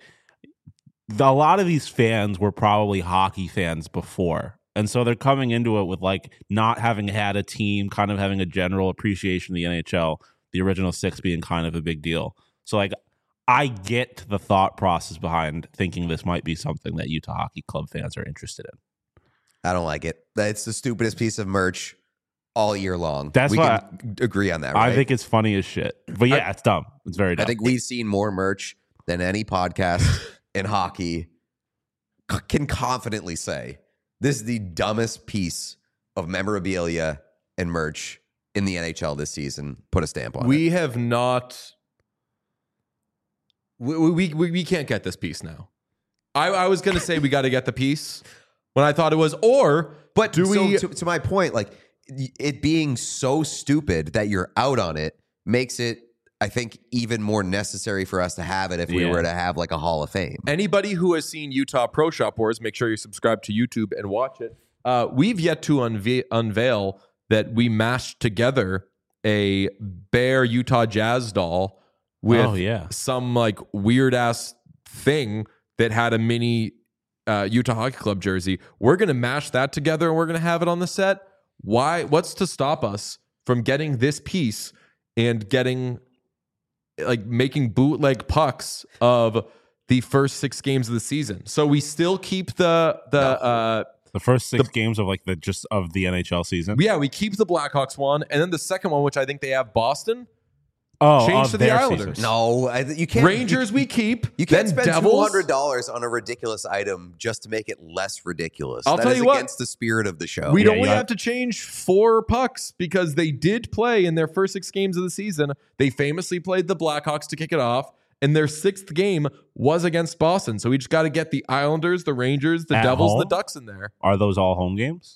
the, a lot of these fans were probably hockey fans before, and so they're coming into it with like not having had a team, kind of having a general appreciation of the N H L, the original six being kind of a big deal. So like I get the thought process behind thinking this might be something that Utah Hockey Club fans are interested in. I don't like it. It's the stupidest piece of merch all year long. That's we why can agree on that, right? I think it's funny as shit, but yeah, it's dumb. It's very dumb. I think we've seen more merch than any podcast in hockey c- can confidently say. This is the dumbest piece of memorabilia and merch in the N H L this season. Put a stamp on it. We have not. We, we we we can't get this piece now. I, I was going to say we got to get the piece when I thought it was, or But do so we? to, to my point, like it being so stupid that you're out on it makes it, I think, even more necessary for us to have it if we Yeah. were to have like a Hall of Fame. Anybody who has seen Utah Pro Shop Wars, make sure you subscribe to YouTube and watch it. Uh, we've yet to unve- unveil that we mashed together a Bear Utah Jazz doll with Oh, yeah. some like weird ass thing that had a mini uh, Utah Hockey Club jersey. We're gonna mash that together and we're gonna have it on the set. Why? What's to stop us from getting this piece and getting like making bootleg pucks of the first six games of the season? So we still keep the the uh The first six games of like the just of the N H L season. yeah, we keep the Blackhawks one, and then the second one, which I think they have Boston, oh, change of to the their Islanders. season. No, I, you can't. Rangers we keep. You can't then spend Devils. two hundred dollars on a ridiculous item just to make it less ridiculous. I'll That tell is you what. against the spirit of the show. We'd Yeah, only you got- have to change four pucks because they did play in their first six games of the season. They famously played the Blackhawks to kick it off, and their sixth game was against Boston. So we just got to get the Islanders, the Rangers, the At Devils, and the home? Ducks in there. Are those all home games?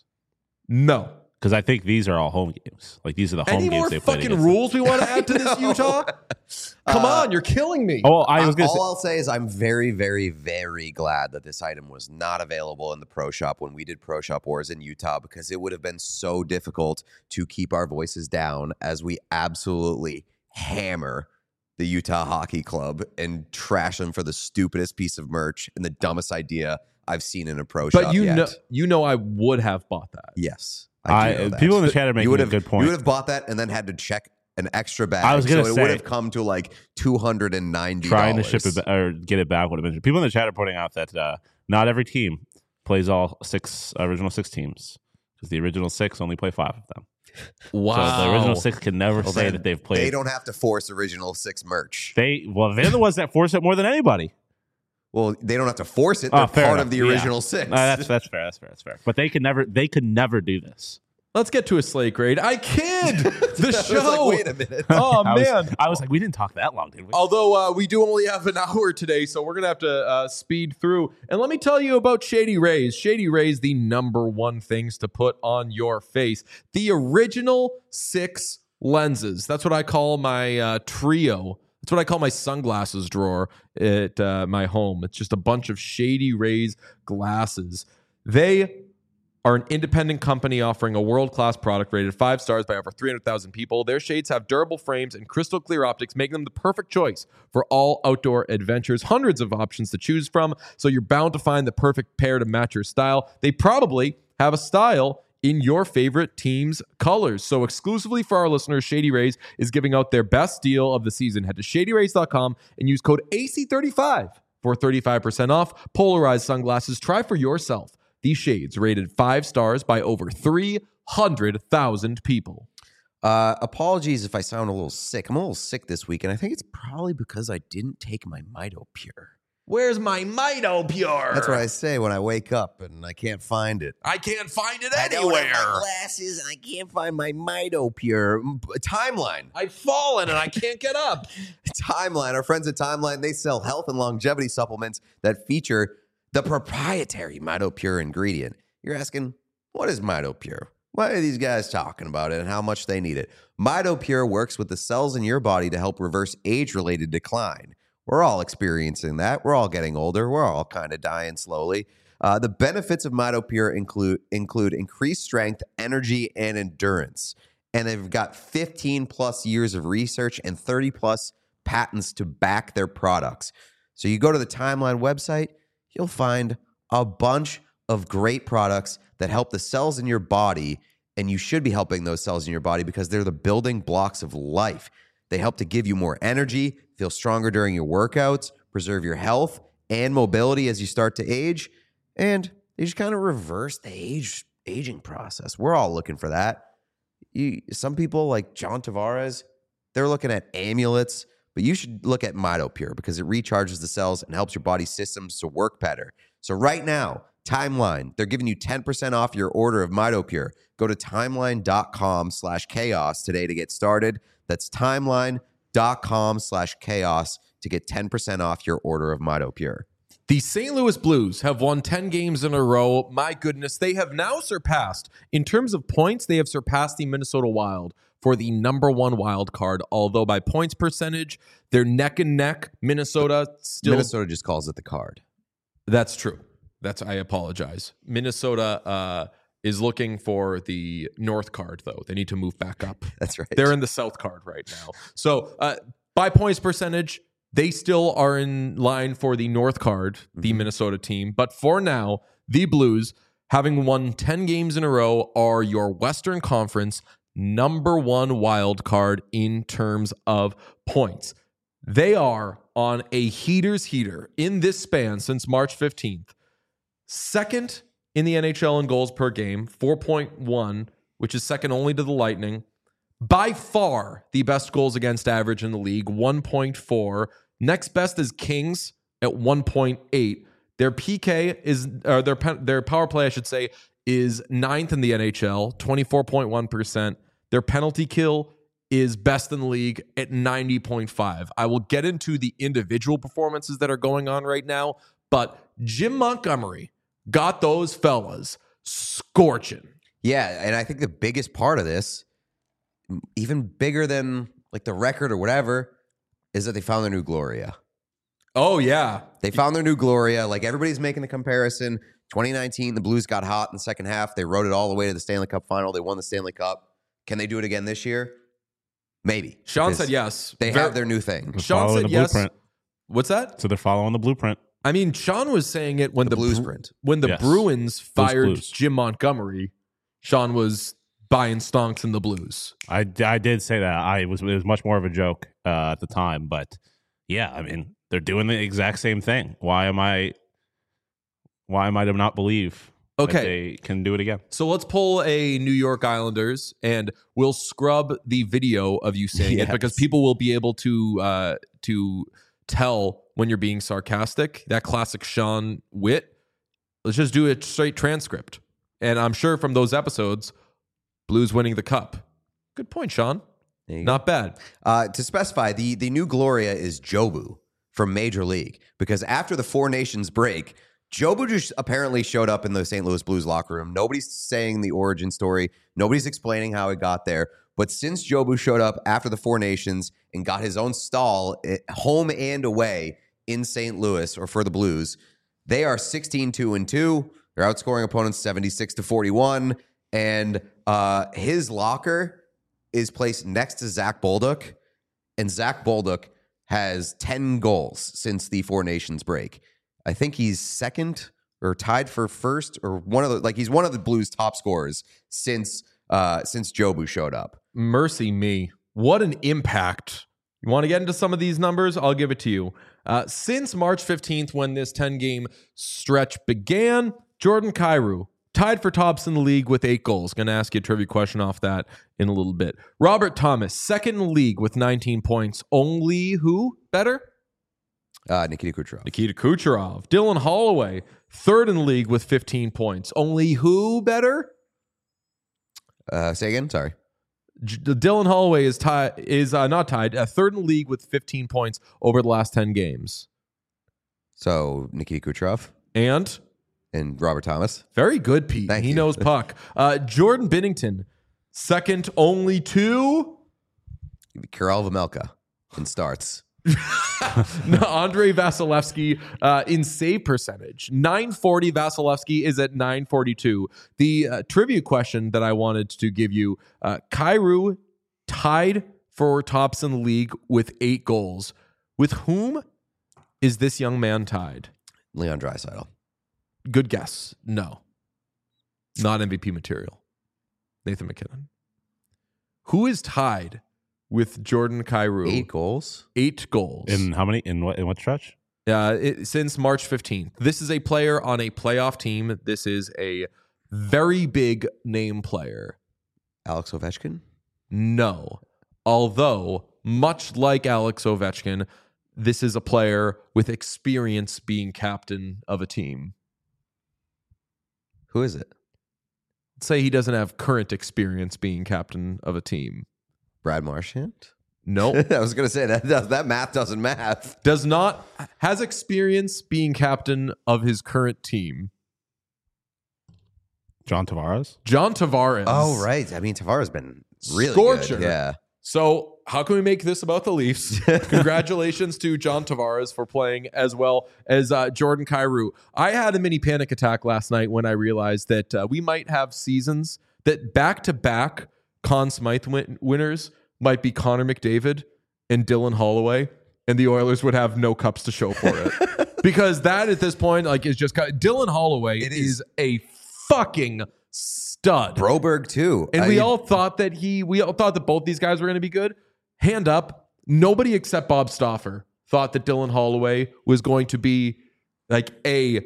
No. Because I think these are all home games. Like these are the home Any games more they played fucking against them. rules we want to add to this, Utah? Come Uh, on, you're killing me. Oh, I was Uh, gonna all say, I'll say is I'm very, very, very glad that this item was not available in the Pro Shop when we did Pro Shop Wars in Utah, because it would have been so difficult to keep our voices down as we absolutely hammer the Utah Hockey Club and trash them for the stupidest piece of merch and the dumbest idea I've seen in a Pro Shop but you yet. know, you know, I would have bought that. Yes. I, do know that. people in the chat are you making would a have, good point. You would have bought that and then had to check an extra bag. I was gonna so it say- would have come to like two hundred ninety dollars. Trying to ship it ba- or get it back would have been. People in the chat are pointing out that uh, not every team plays all six original six teams because the original six only play five of them. Wow. So the original six can never Well, say then that they've played. They don't have to force original six merch. They well, they're the ones that force it more than anybody. Well, they don't have to force it. Oh, They're fair part enough. of the Yeah. original six. Uh, that's that's fair. That's fair. That's fair. But they could never. They could never do this. Let's get to a slate grade. I kid. The I was show. like, wait a minute. Oh, I was, man. I was like, we didn't talk that long, did we? Although uh, we do only have an hour today, so we're going to have to uh, speed through. And let me tell you about Shady Rays. Shady Rays, the number one things to put on your face. The original six lenses. That's what I call my uh, trio. That's what I call my sunglasses drawer at uh, my home. It's just a bunch of Shady Rays glasses. They are an independent company offering a world-class product rated five stars by over three hundred thousand people. Their shades have durable frames and crystal clear optics, making them the perfect choice for all outdoor adventures. Hundreds of options to choose from, so you're bound to find the perfect pair to match your style. They probably have a style in your favorite team's colors. So exclusively for our listeners, Shady Rays is giving out their best deal of the season. Head to shady rays dot com and use code A C thirty-five for thirty-five percent off. Polarized sunglasses. Try for yourself these shades, rated five stars by over three hundred thousand people. Uh, apologies if I sound a little sick. I'm a little sick this week, and I think it's probably because I didn't take my Mito Pure. Where's my Mito Pure? That's what I say when I wake up and I can't find it. I can't find it I don't have anywhere. my glasses and I can't find my Mito Pure. M- Timeline. I've fallen and I can't get up. Timeline. Our friends at Timeline, they sell health and longevity supplements that feature the proprietary Mito Pure ingredient. You're asking, what is Mito Pure? Why are these guys talking about it and how much they need it? Mito Pure works with the cells in your body to help reverse age-related decline. We're all experiencing that. We're all getting older. We're all kind of dying slowly. Uh, the benefits of Mito Pure include include increased strength, energy, and endurance. And they've got fifteen plus years of research and thirty plus patents to back their products. So you go to the Timeline website, you'll find a bunch of great products that help the cells in your body, and you should be helping those cells in your body because they're the building blocks of life. They help to give you more energy, feel stronger during your workouts, preserve your health and mobility as you start to age, and they just kind of reverse the age aging process. We're all looking for that. You, some people like John Tavares, they're looking at amulets, but you should look at Mito Pure because it recharges the cells and helps your body systems to work better. So right now, Timeline, they're giving you ten percent off your order of Mito Pure. Go to timeline.com slash chaos today to get started. That's timeline.com slash chaos to get ten percent off your order of Mito Pure. The Saint Louis Blues have won ten games in a row. My goodness, they have now surpassed, in terms of points, they have surpassed the Minnesota Wild for the number one wild card, although by points percentage, they're neck and neck. Minnesota still... Minnesota just calls it the card. That's true. That's I apologize. Minnesota uh, is looking for the North card, though. They need to move back up. That's right. They're in the South card right now. So uh, by points percentage, they still are in line for the North card, the mm-hmm. Minnesota team. But for now, the Blues, having won ten games in a row, are your Western Conference number one wild card in terms of points. They are on a heater's heater in this span since March fifteenth. Second in the N H L in goals per game, four point one, which is second only to the Lightning. By far the best goals against average in the league, one point four. Next best is Kings at one point eight. Their P K is, or their their power play, I should say, is ninth in the N H L, twenty-four point one percent. Their penalty kill is best in the league at ninety point five. I will get into the individual performances that are going on right now, but Jim Montgomery got those fellas scorching. Yeah, and I think the biggest part of this, even bigger than like the record or whatever, is that they found their new Gloria. Oh, yeah. They found their new Gloria. Like, everybody's making the comparison. twenty nineteen, the Blues got hot in the second half. They rode it all the way to the Stanley Cup final. They won the Stanley Cup. Can they do it again this year? Maybe. Sean said yes. They Ver- have their new thing. They're Sean following said the yes. blueprint. What's that? So they're following the blueprint. I mean, Sean was saying it when The the, Blues Bru- print. when the Yes. Bruins fired Blues. Jim Montgomery. Sean was buying stonks in the Blues. I, I did say that. I was it was much more of a joke uh, at the time, but yeah, I mean they're doing the exact same thing. Why am I? Why am I to not believe? Okay. that they can do it again. So let's pull a New York Islanders, and we'll scrub the video of you saying Yes. it because people will be able to uh, to tell when you're being sarcastic. That classic Sean wit. Let's just do a straight transcript, and I'm sure from those episodes, Blues winning the cup. Good point, Sean. There you Not bad. Uh, to specify, the, the new Gloria is Jobu from Major League, because after the Four Nations break, Jobu just apparently showed up in the Saint Louis Blues locker room. Nobody's saying the origin story. Nobody's explaining how he got there. But since Jobu showed up after the Four Nations and got his own stall eh, home and away in Saint Louis, or for the Blues, they are sixteen two and two. They're outscoring opponents seventy-six to forty-one. And uh, his locker is placed next to Zach Bolduc. And Zach Bolduc has ten goals since the Four Nations break. I think he's second or tied for first, or one of the like he's one of the Blues' top scorers since uh, since Jobu showed up. Mercy me. What an impact. You want to get into some of these numbers? I'll give it to you. Uh, since March fifteenth, when this ten-game stretch began, Jordan Kyrou tied for tops in the league with eight goals. Going to ask you a trivia question off that in a little bit. Robert Thomas, second in the league with nineteen points. Only who better? Uh, Nikita Kucherov. Nikita Kucherov. Dylan Holloway, third in the league with fifteen points. Only who better? Uh, say again. Sorry. J- Dylan Holloway is tied is uh, not tied, uh, third in the league with fifteen points over the last ten games. So Nikita Kucherov And and Robert Thomas. very good, Pete. Thank he you. knows puck. Uh, Jordan Binnington, second only to Karel Vejmelka in starts. no, Andrei Vasilevsky uh, in save percentage. nine forty. Vasilevsky is at nine forty-two. The uh, trivia question that I wanted to give you, uh, Kyrou tied for tops in the league with eight goals. With whom is this young man tied? Leon Draisaitl. Good guess. No. Not M V P material. Nathan McKinnon. Who is tied with Jordan Kyrou? Eight goals. Eight goals. In how many? In what? In what stretch? Uh, it, since March fifteenth. This is a player on a playoff team. This is a very big name player. Alex Ovechkin. No. Although, much like Alex Ovechkin, this is a player with experience being captain of a team. Who is it? Let's say he doesn't have current experience being captain of a team. Brad Marchand. Nope. I was going to say that does, that math doesn't math. Does not, has experience being captain of his current team. John Tavares. John Tavares. Oh, right. I mean, Tavares has been really Scorcher. good. Yeah. So how can we make this about the Leafs? Congratulations to John Tavares for playing as well as uh, Jordan Kyrou. I had a mini panic attack last night when I realized that uh, we might have seasons that back-to-back Conn Smythe win- winners might be Connor McDavid and Dylan Holloway, and the Oilers would have no cups to show for it. Because that at this point, like, is just Dylan Holloway It is. is. a fucking stud. Broberg, too. And I we mean, all thought that he, we all thought that both these guys were going to be good. Hand up, nobody except Bob Stauffer thought that Dylan Holloway was going to be like a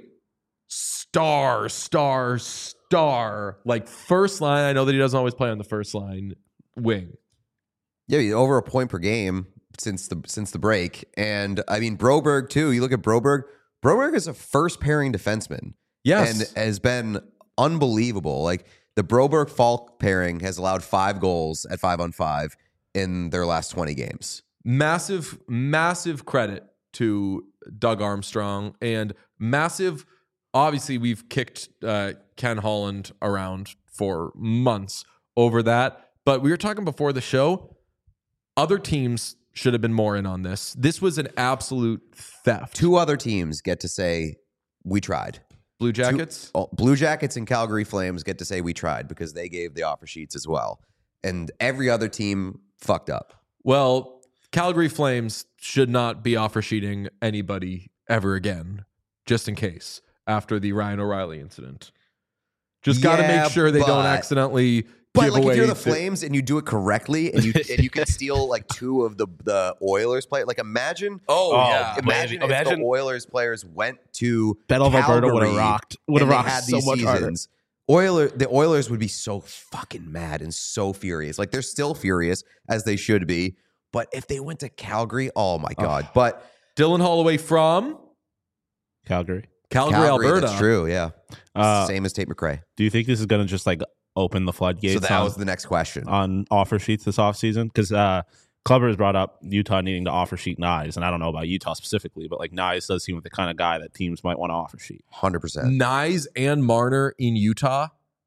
star, star, star, like first line. I know that he doesn't always play on the first line wing. Yeah, over a point per game since the since the break. And I mean, Broberg, too. You look at Broberg. Broberg is a first pairing defenseman. Yes. And has been unbelievable. Like the Broberg Falk pairing has allowed five goals at five on five in their last twenty games. Massive, massive credit to Doug Armstrong and massive. Obviously, we've kicked uh, Ken Holland around for months over that. But we were talking before the show. Other teams should have been more in on this. This was an absolute theft. Two other teams get to say, we tried. Blue Jackets? Two, oh, Blue Jackets and Calgary Flames get to say we tried because they gave the offer sheets as well. And every other team fucked up. Well, Calgary Flames should not be offer sheeting anybody ever again, just in case, after the Ryan O'Reilly incident. Just got to Yeah, make sure they don't but- accidentally But give like away if you're the the- Flames and you do it correctly and you and you can steal like two of the, the Oilers play, like imagine Oh, Oh, yeah. imagine, Imagine- if the Oilers players went to Battle of Alberta would have Calgary rocked. Would have and they rocked had so these much harder. seasons. Oiler, the Oilers would be so fucking mad and so furious. Like they're still furious as they should be. But if they went to Calgary, oh my god! But Dylan Holloway from Calgary. Calgary, Calgary, Alberta. that's true. Yeah, Uh, same as Tate McRae. Do you think this is going to just like open the floodgates So that on, was the next question. on offer sheets this offseason? Because uh, Clubber has brought up Utah needing to offer sheet Nyes, and I don't know about Utah specifically, but like Nyes does seem like the kind of guy that teams might want to offer sheet. Hundred percent. Nyes and Marner in Utah.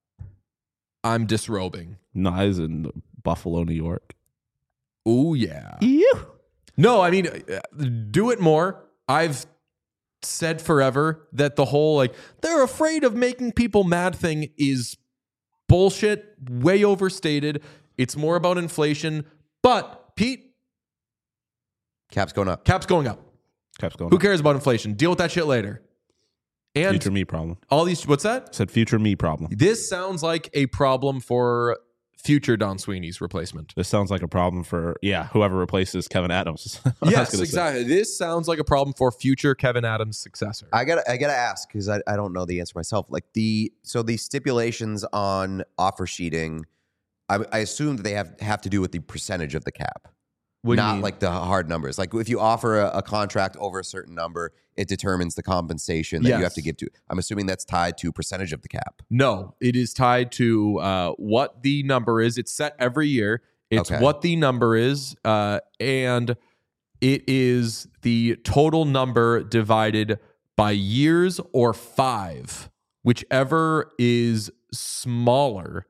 I'm disrobing. Nyes in Buffalo, New York. Oh, yeah. Ew. No, I mean, uh, do it more. I've said forever that the whole, like, they're afraid of making people mad thing is bullshit, way overstated. It's more about inflation. But, Pete, Cap's going up. cap's going up. Caps going. Who cares about inflation? Deal with that shit later. And Future me problem. all these, what's that? Said future me problem. This sounds like a problem for future Don Sweeney's replacement. This sounds like a problem for, yeah, whoever replaces Kevin Adams. I was Yes, gonna say. exactly. This sounds like a problem for future Kevin Adams' successor. I gotta, I gotta ask because I, I don't know the answer myself. Like the, so the stipulations on offer sheeting, I, I assume that they have have to do with the percentage of the cap, What do you not mean? like the hard numbers. Like if you offer a, a contract over a certain number, it determines the compensation that Yes. you have to give to. I'm assuming that's tied to percentage of the cap. No, it is tied to uh, what the number is. It's set every year. It's Okay. what the number is, uh, and it is the total number divided by years or five, whichever is smaller.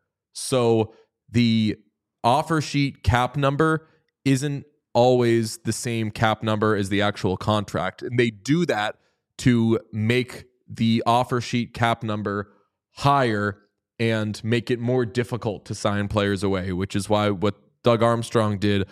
So the offer sheet cap number isn't always the same cap number as the actual contract. And they do that to make the offer sheet cap number higher and make it more difficult to sign players away, which is why what Doug Armstrong did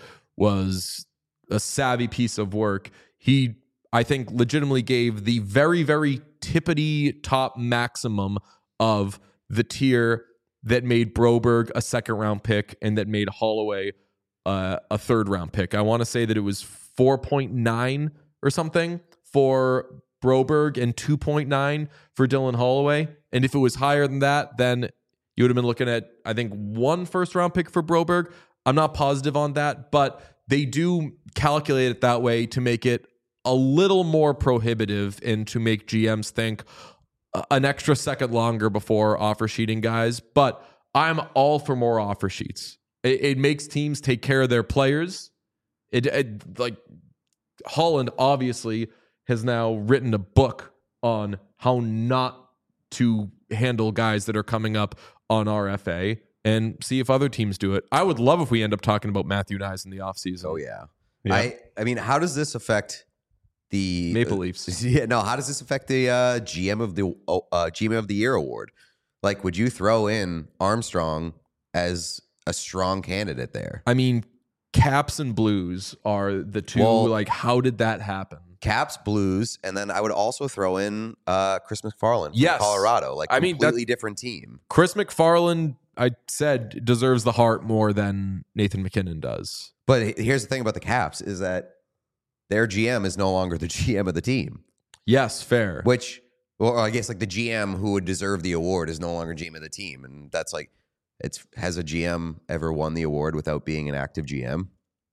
was a savvy piece of work. He, I think, legitimately gave the very, very tippity top maximum of the tier that made Broberg a second round pick and that made Holloway uh, a third round pick. I want to say that it was four point nine or something for Broberg and two point nine for Dylan Holloway. And if it was higher than that, then you would have been looking at, I think, one first round pick for Broberg. I'm not positive on that, but they do calculate it that way to make it a little more prohibitive and to make G Ms think uh, an extra second longer before offer sheeting guys. But I'm all for more offer sheets. It, it makes teams take care of their players. It, it like Holland obviously has now written a book on how not to handle guys that are coming up on R F A and see if other teams do it. I would love if we end up talking about Matthew Nyes in the offseason. Oh yeah. Yeah. I I mean, how does this affect the Maple Leafs. Yeah, no. How does this affect the uh, G M of the uh, G M of the Year award? Like, would you throw in Armstrong as a strong candidate there? I mean, Caps and Blues are the two. Well- like, how did that happen? Caps, Blues, and then I would also throw in uh, Chris McFarland from Yes. Colorado. Like, I mean, completely different team. Chris McFarland, I said, deserves the heart more than Nathan McKinnon does. But he- here's the thing about the Caps is that their G M is no longer the G M of the team, Yes, fair. which, or I guess like the G M who would deserve the award is no longer G M of the team. And that's like, it's has a G M ever won the award without being an active G M?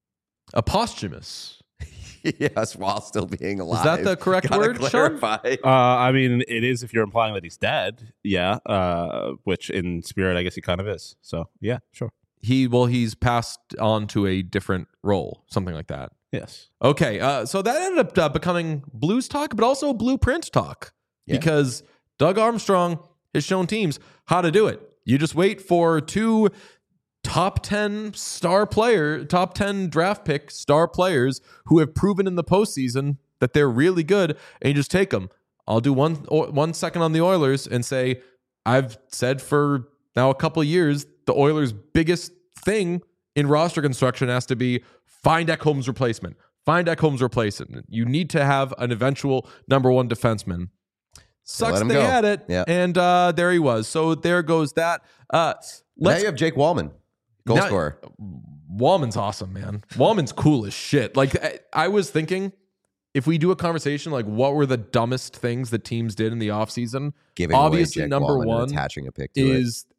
A posthumous. Yes, while still being alive. Is that the correct Gotta word, Sean? clarify. Uh, I mean, it is if you're implying that he's dead. Yeah. Uh, which in spirit, I guess he kind of is. So yeah, sure. He well, he's passed on to a different role, something like that. Yes. Okay, uh, so that ended up uh, becoming Blues talk, but also Blueprint talk Yeah. because Doug Armstrong has shown teams how to do it. You just wait for two top ten star player, top ten draft pick star players who have proven in the postseason that they're really good, and you just take them. I'll do one one second on the Oilers and say I've said for now a couple of years the Oilers' biggest thing in roster construction has to be find Ekholm's replacement. Find Ekholm's replacement. You need to have an eventual number one defenseman. Sucks let him they go. had it, Yeah. and uh, there he was. So there goes that. Uh, Now let's you have Jake Wallman, goal Now- scorer. Wallman's awesome, man. Wallman's cool as shit. Like I, I was thinking, if we do a conversation like what were the dumbest things that teams did in the offseason, Giving obviously away Jake number Wallman and one attaching a pick to it. is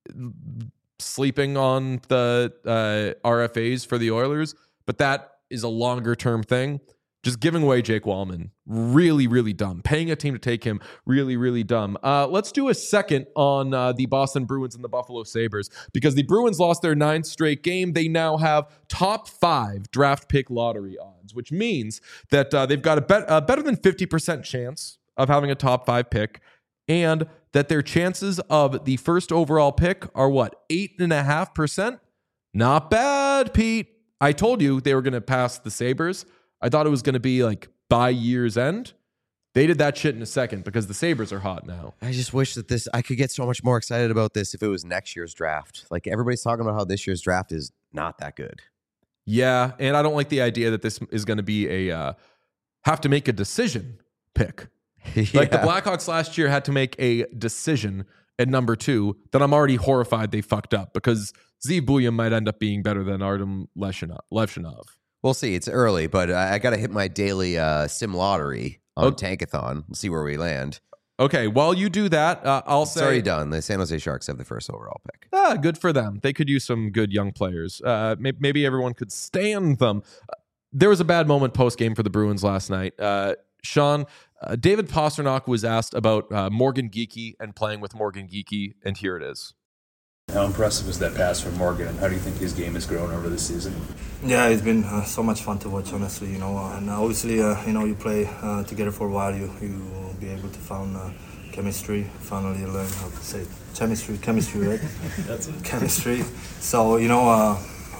sleeping on the uh, R F As for the Oilers, but that is a longer term thing. Just giving away Jake Wallman, really, really dumb. Paying a team to take him, really, really dumb. Uh, let's do a second on uh, the Boston Bruins and the Buffalo Sabres because the Bruins lost their ninth straight game. They now have top five draft pick lottery odds, which means that uh, they've got a, bet- a better than fifty percent chance of having a top five pick, and that their chances of the first overall pick are what, eight and a half percent? Not bad, Pete. I told you they were going to pass the Sabres. I thought it was going to be like by year's end. They did that shit in a second because the Sabres are hot now. I just wish that this, I could get so much more excited about this if it was next year's draft. Like everybody's talking about how this year's draft is not that good. Yeah, and I don't like the idea that this is going to be a uh, have to make a decision pick. Like the Yeah. Blackhawks last year had to make a decision at number two that I'm already horrified they fucked up because Zeev Buium might end up being better than Artem Levshinov. Levshinov. We'll see. It's early, but I, I got to hit my daily uh, sim lottery on Oh. Tankathon. We'll see where we land. Okay, while you do that, uh, I'll It's say already done. The San Jose Sharks have the first overall pick. ah, good for them. They could use some good young players. Uh, maybe, maybe everyone could stand them. Uh, there was a bad moment post game for the Bruins last night. Uh, Sean, uh, David Pastrnak was asked about uh, Morgan Geekie and playing with Morgan Geekie, and here it is. How impressive was that pass from Morgan, and how do you think his game has grown over the season? Yeah, it's been uh, so much fun to watch, honestly. You know, and obviously, uh, you know, you play uh, together for a while, you you will be able to find uh, chemistry. Finally, learn how to say it. chemistry, chemistry, right? That's it. Chemistry. So you know, uh,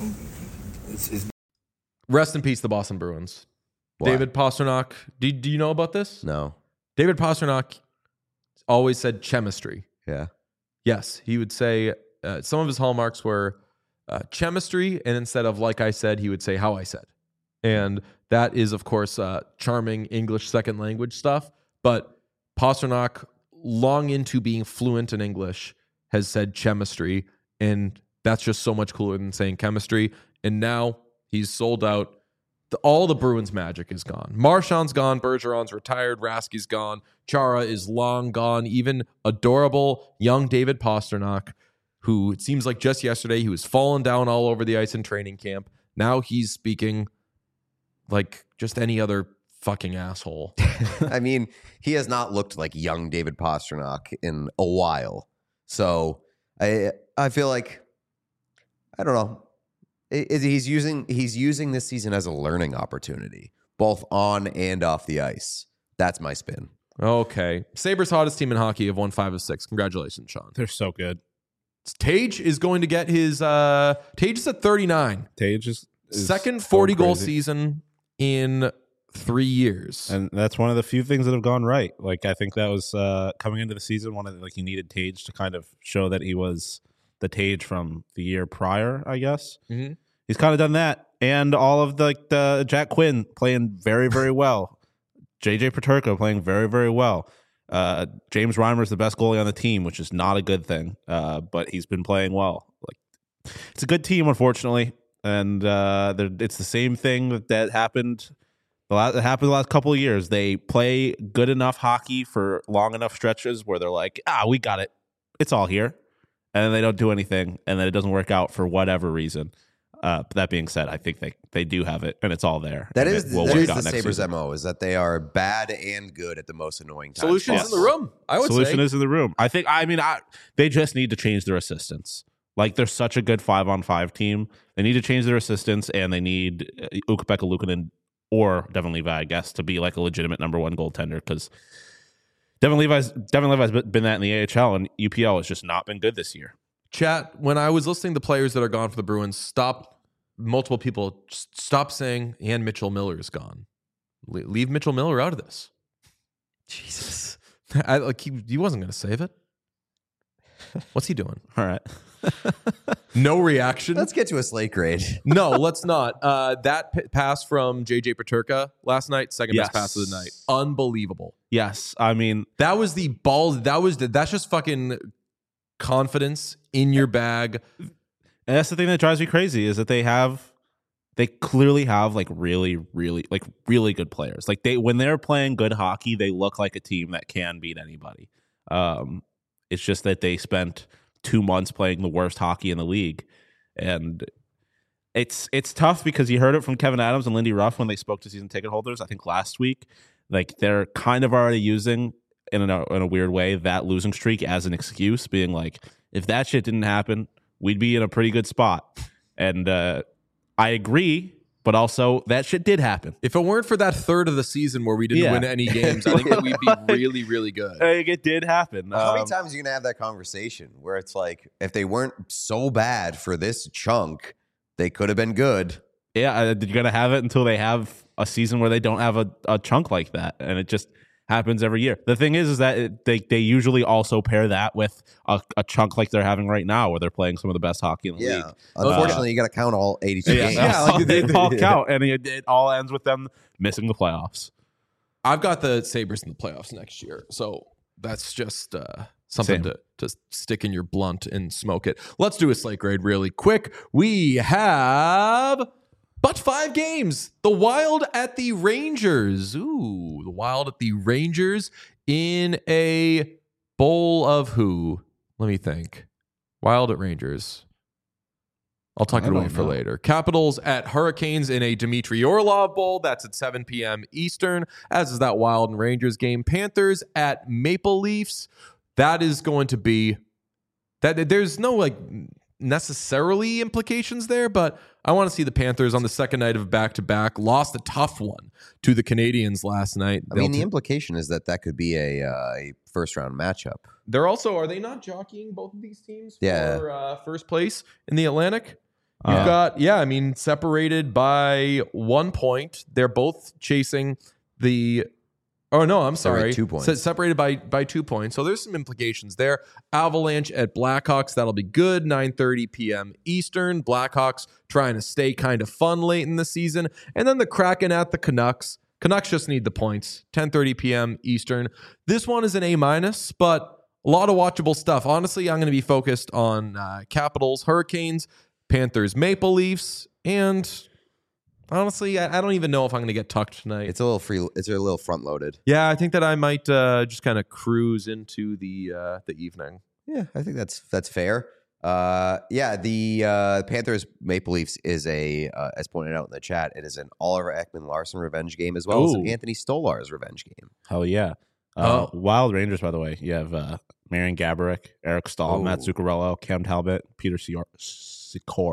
it's, it's Rest in peace, the Boston Bruins. Why? David Pastrnak. Do, do you know about this? No. David Pastrnak always said chemistry. Yeah. Yes, he would say uh, some of his hallmarks were uh, chemistry, and instead of like I said, he would say how I said. And that is, of course, uh, charming English second language stuff. But Pastrnak, long into being fluent in English, has said chemistry, and that's just so much cooler than saying chemistry. And now he's sold out. The, all the Bruins magic is gone. Marchand's gone. Bergeron's retired. Rasky's gone. Chara is long gone. Even adorable young David Pastrnak, who it seems like just yesterday he was falling down all over the ice in training camp. Now he's speaking like just any other fucking asshole. I mean, he has not looked like young David Pastrnak in a while. So I I feel like, I don't know. Is he's using he's using this season as a learning opportunity, both on and off the ice. That's my spin. Okay. Sabres hottest team in hockey have won five of six. Congratulations, Sean. They're so good. Tage is going to get his uh Tage is at thirty-nine. Tage is, is second forty goal crazy. season in three years. And that's one of the few things that have gone right. Like, I think that was uh, coming into the season, one of the, like, he needed Tage to kind of show that he was the Tage from the year prior, I guess. Mm-hmm. He's kind of done that. And all of the, like, the Jack Quinn playing very, very well. J J Peterka playing very, very well. Uh, James Reimer's the best goalie on the team, which is not a good thing. Uh, but he's been playing well. Like, it's a good team, unfortunately. And uh, it's the same thing that, that happened It happened the last couple of years. They play good enough hockey for long enough stretches where they're like, ah, we got it. It's all here. And then they don't do anything. And then it doesn't work out for whatever reason. Uh, but that being said, I think they, they do have it and it's all there. That and is, will that work is out the next Sabres season. M O, is that they are bad and good at the most annoying times. Solutions possible. in the room, I would Solution say. is in the room. I think, I mean, I, they just need to change their assistants. Like, they're such a good five-on-five team. They need to change their assistants, and they need uh, Ukko-Pekka Luukkonen or Devin Levi, I guess, to be like a legitimate number one goaltender, because Devin Levi's Devin Levi's been that in the A H L, and U P L has just not been good this year. Chat, when I was listening to players that are gone for the Bruins, stop, multiple people, just stop saying, and Mitchell Miller is gone. Le- leave Mitchell Miller out of this. Jesus. I, like he, he wasn't going to save it. What's he doing? All right. No reaction. Let's get to a slate grade. No, let's not. Uh, that p- pass from J J Peterka last night, second Yes. best pass of the night. Unbelievable. Yes. I mean, That was the ball. That was the, that's just fucking confidence in your bag. and that's the thing that drives me crazy is that they have, they clearly have like really, really, like really good players. Like they, when they're playing good hockey, they look like a team that can beat anybody. Um, it's just that they spent two months playing the worst hockey in the league. And it's it's tough because you heard it from Kevin Adams and Lindy Ruff when they spoke to season ticket holders, I think last week. Like, they're kind of already using, in a, in a weird way, that losing streak as an excuse, being like, if that shit didn't happen, we'd be in a pretty good spot. And uh, I agree, but also that shit did happen. If it weren't for that third of the season where we didn't Yeah. win any games, I think that we'd be really, really good. Like, it did happen. How many Um, times are you going to have that conversation where it's like, if they weren't so bad for this chunk, they could have been good? Yeah, uh, you're going to have it until they have a season where they don't have a, a chunk like that. And it just happens every year. The thing is, is that it, they, they usually also pair that with a, a chunk like they're having right now where they're playing some of the best hockey in the Yeah. league. Unfortunately, you got to count all eighty-two Yeah, games. yeah, like, they, they- all count. And it, it all ends with them missing the playoffs. I've got the Sabres in the playoffs next year. So that's just uh, something Same. to, to stick in your blunt and smoke it. Let's do a slate grade really quick. We have but five games. The Wild at the Rangers. Ooh, the Wild at the Rangers in a bowl of who? Let me think. Wild at Rangers. I'll tuck I it away don't for know. later. Capitals at Hurricanes in a Dmitry Orlov Bowl. That's at seven p.m. Eastern, as is that Wild and Rangers game. Panthers at Maple Leafs. That is going to be that. There's no like necessarily implications there, but I want to see the Panthers on the second night of back to back. Lost a tough one to the Canadians last night. I mean, the They'll t- implication is that that could be a, uh, a first round matchup. they're also are they not jockeying both of these teams Yeah. for uh, first place in the Atlantic? You've Uh, got, yeah, I mean, separated by one point. They're both chasing the. Oh, no, I'm Sorry, sorry. two points. Se- separated by by two points. So there's some implications there. Avalanche at Blackhawks. That'll be good. nine thirty p.m. Eastern. Blackhawks trying to stay kind of fun late in the season. And then the Kraken at the Canucks. Canucks just need the points. ten thirty p.m. Eastern. This one is an A minus, but a lot of watchable stuff. Honestly, I'm going to be focused on uh, Capitals, Hurricanes, Panthers, Maple Leafs, and honestly, I, I don't even know if I'm going to get tucked tonight. It's a little free. It's a little front loaded. yeah, I think that I might uh, just kind of cruise into the uh, the evening. Yeah, I think that's that's fair. Uh, yeah, the uh, Panthers Maple Leafs is a, uh, as pointed out in the chat, it is an Oliver Ekman Larson revenge game as well as an Ooh. Anthony Stolarz revenge game. Hell yeah. Uh, Oh. Wild Rangers, by the way. You have uh, Marian Gaborik, Eric Stahl, Matt Oh. Zuccarello, Cam Talbot, Peter Sior- Sikora.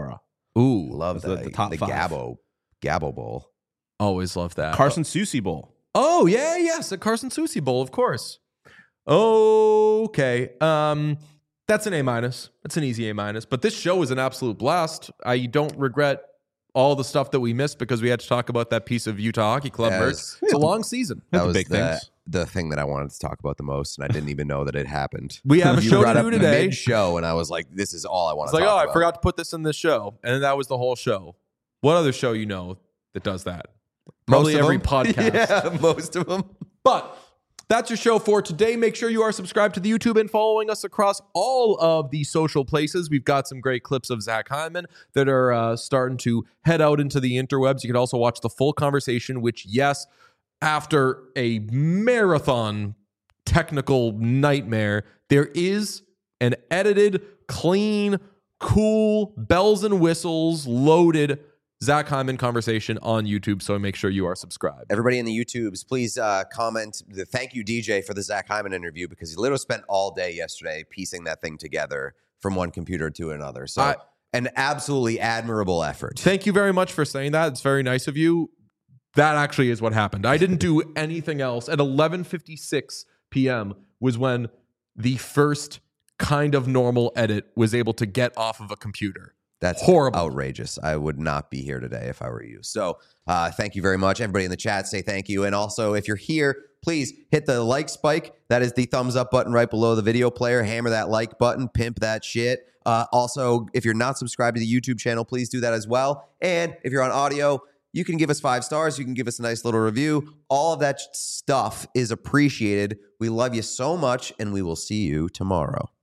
Ooh, Love the- that. the top the five. Gabo, Gabo Bowl. always love that. Carson Soucy Bowl. Oh, yeah, yes, a Carson Soucy Bowl, of course. Okay. Um, that's an A minus. That's an easy A minus. But this show is an absolute blast. I don't regret all the stuff that we missed because we had to talk about that piece of Utah Hockey Club Yeah, merch. it's- It's a long season. That the was big the, things. the thing that I wanted to talk about the most, and I didn't even know that it happened. We have a You show brought to up do today. mid-show, and I was like, this is all I want It's to like, talk oh, about. I forgot to put this in this show. And that was the whole show. What other show you know that does that? Probably Most of every them? podcast. Yeah, most of them. But that's your show for today. Make sure you are subscribed to the YouTube and following us across all of the social places. We've got some great clips of Zach Hyman that are uh, starting to head out into the interwebs. You can also watch the full conversation, which, yes, after a marathon technical nightmare, there is an edited, clean, cool, bells and whistles loaded Zach Hyman conversation on YouTube. So make sure you are subscribed. Everybody in the YouTubes, please uh, comment. The thank you, D J, for the Zach Hyman interview because he literally spent all day yesterday piecing that thing together from one computer to another. So, I- an absolutely admirable effort. Thank you very much for saying that. It's very nice of you. That actually is what happened. I didn't do anything else. At eleven fifty-six p.m. was when the first kind of normal edit was able to get off of a computer. That's Horrible. outrageous. I would not be here today if I were you. So uh, thank you very much. Everybody in the chat, say thank you. And also, if you're here, please hit the like spike. That is the thumbs up button right below the video player. Hammer that like button. Pimp that shit. Uh, also, if you're not subscribed to the YouTube channel, please do that as well. And if you're on audio, you can give us five stars. You can give us a nice little review. All of that stuff is appreciated. We love you so much, and we will see you tomorrow.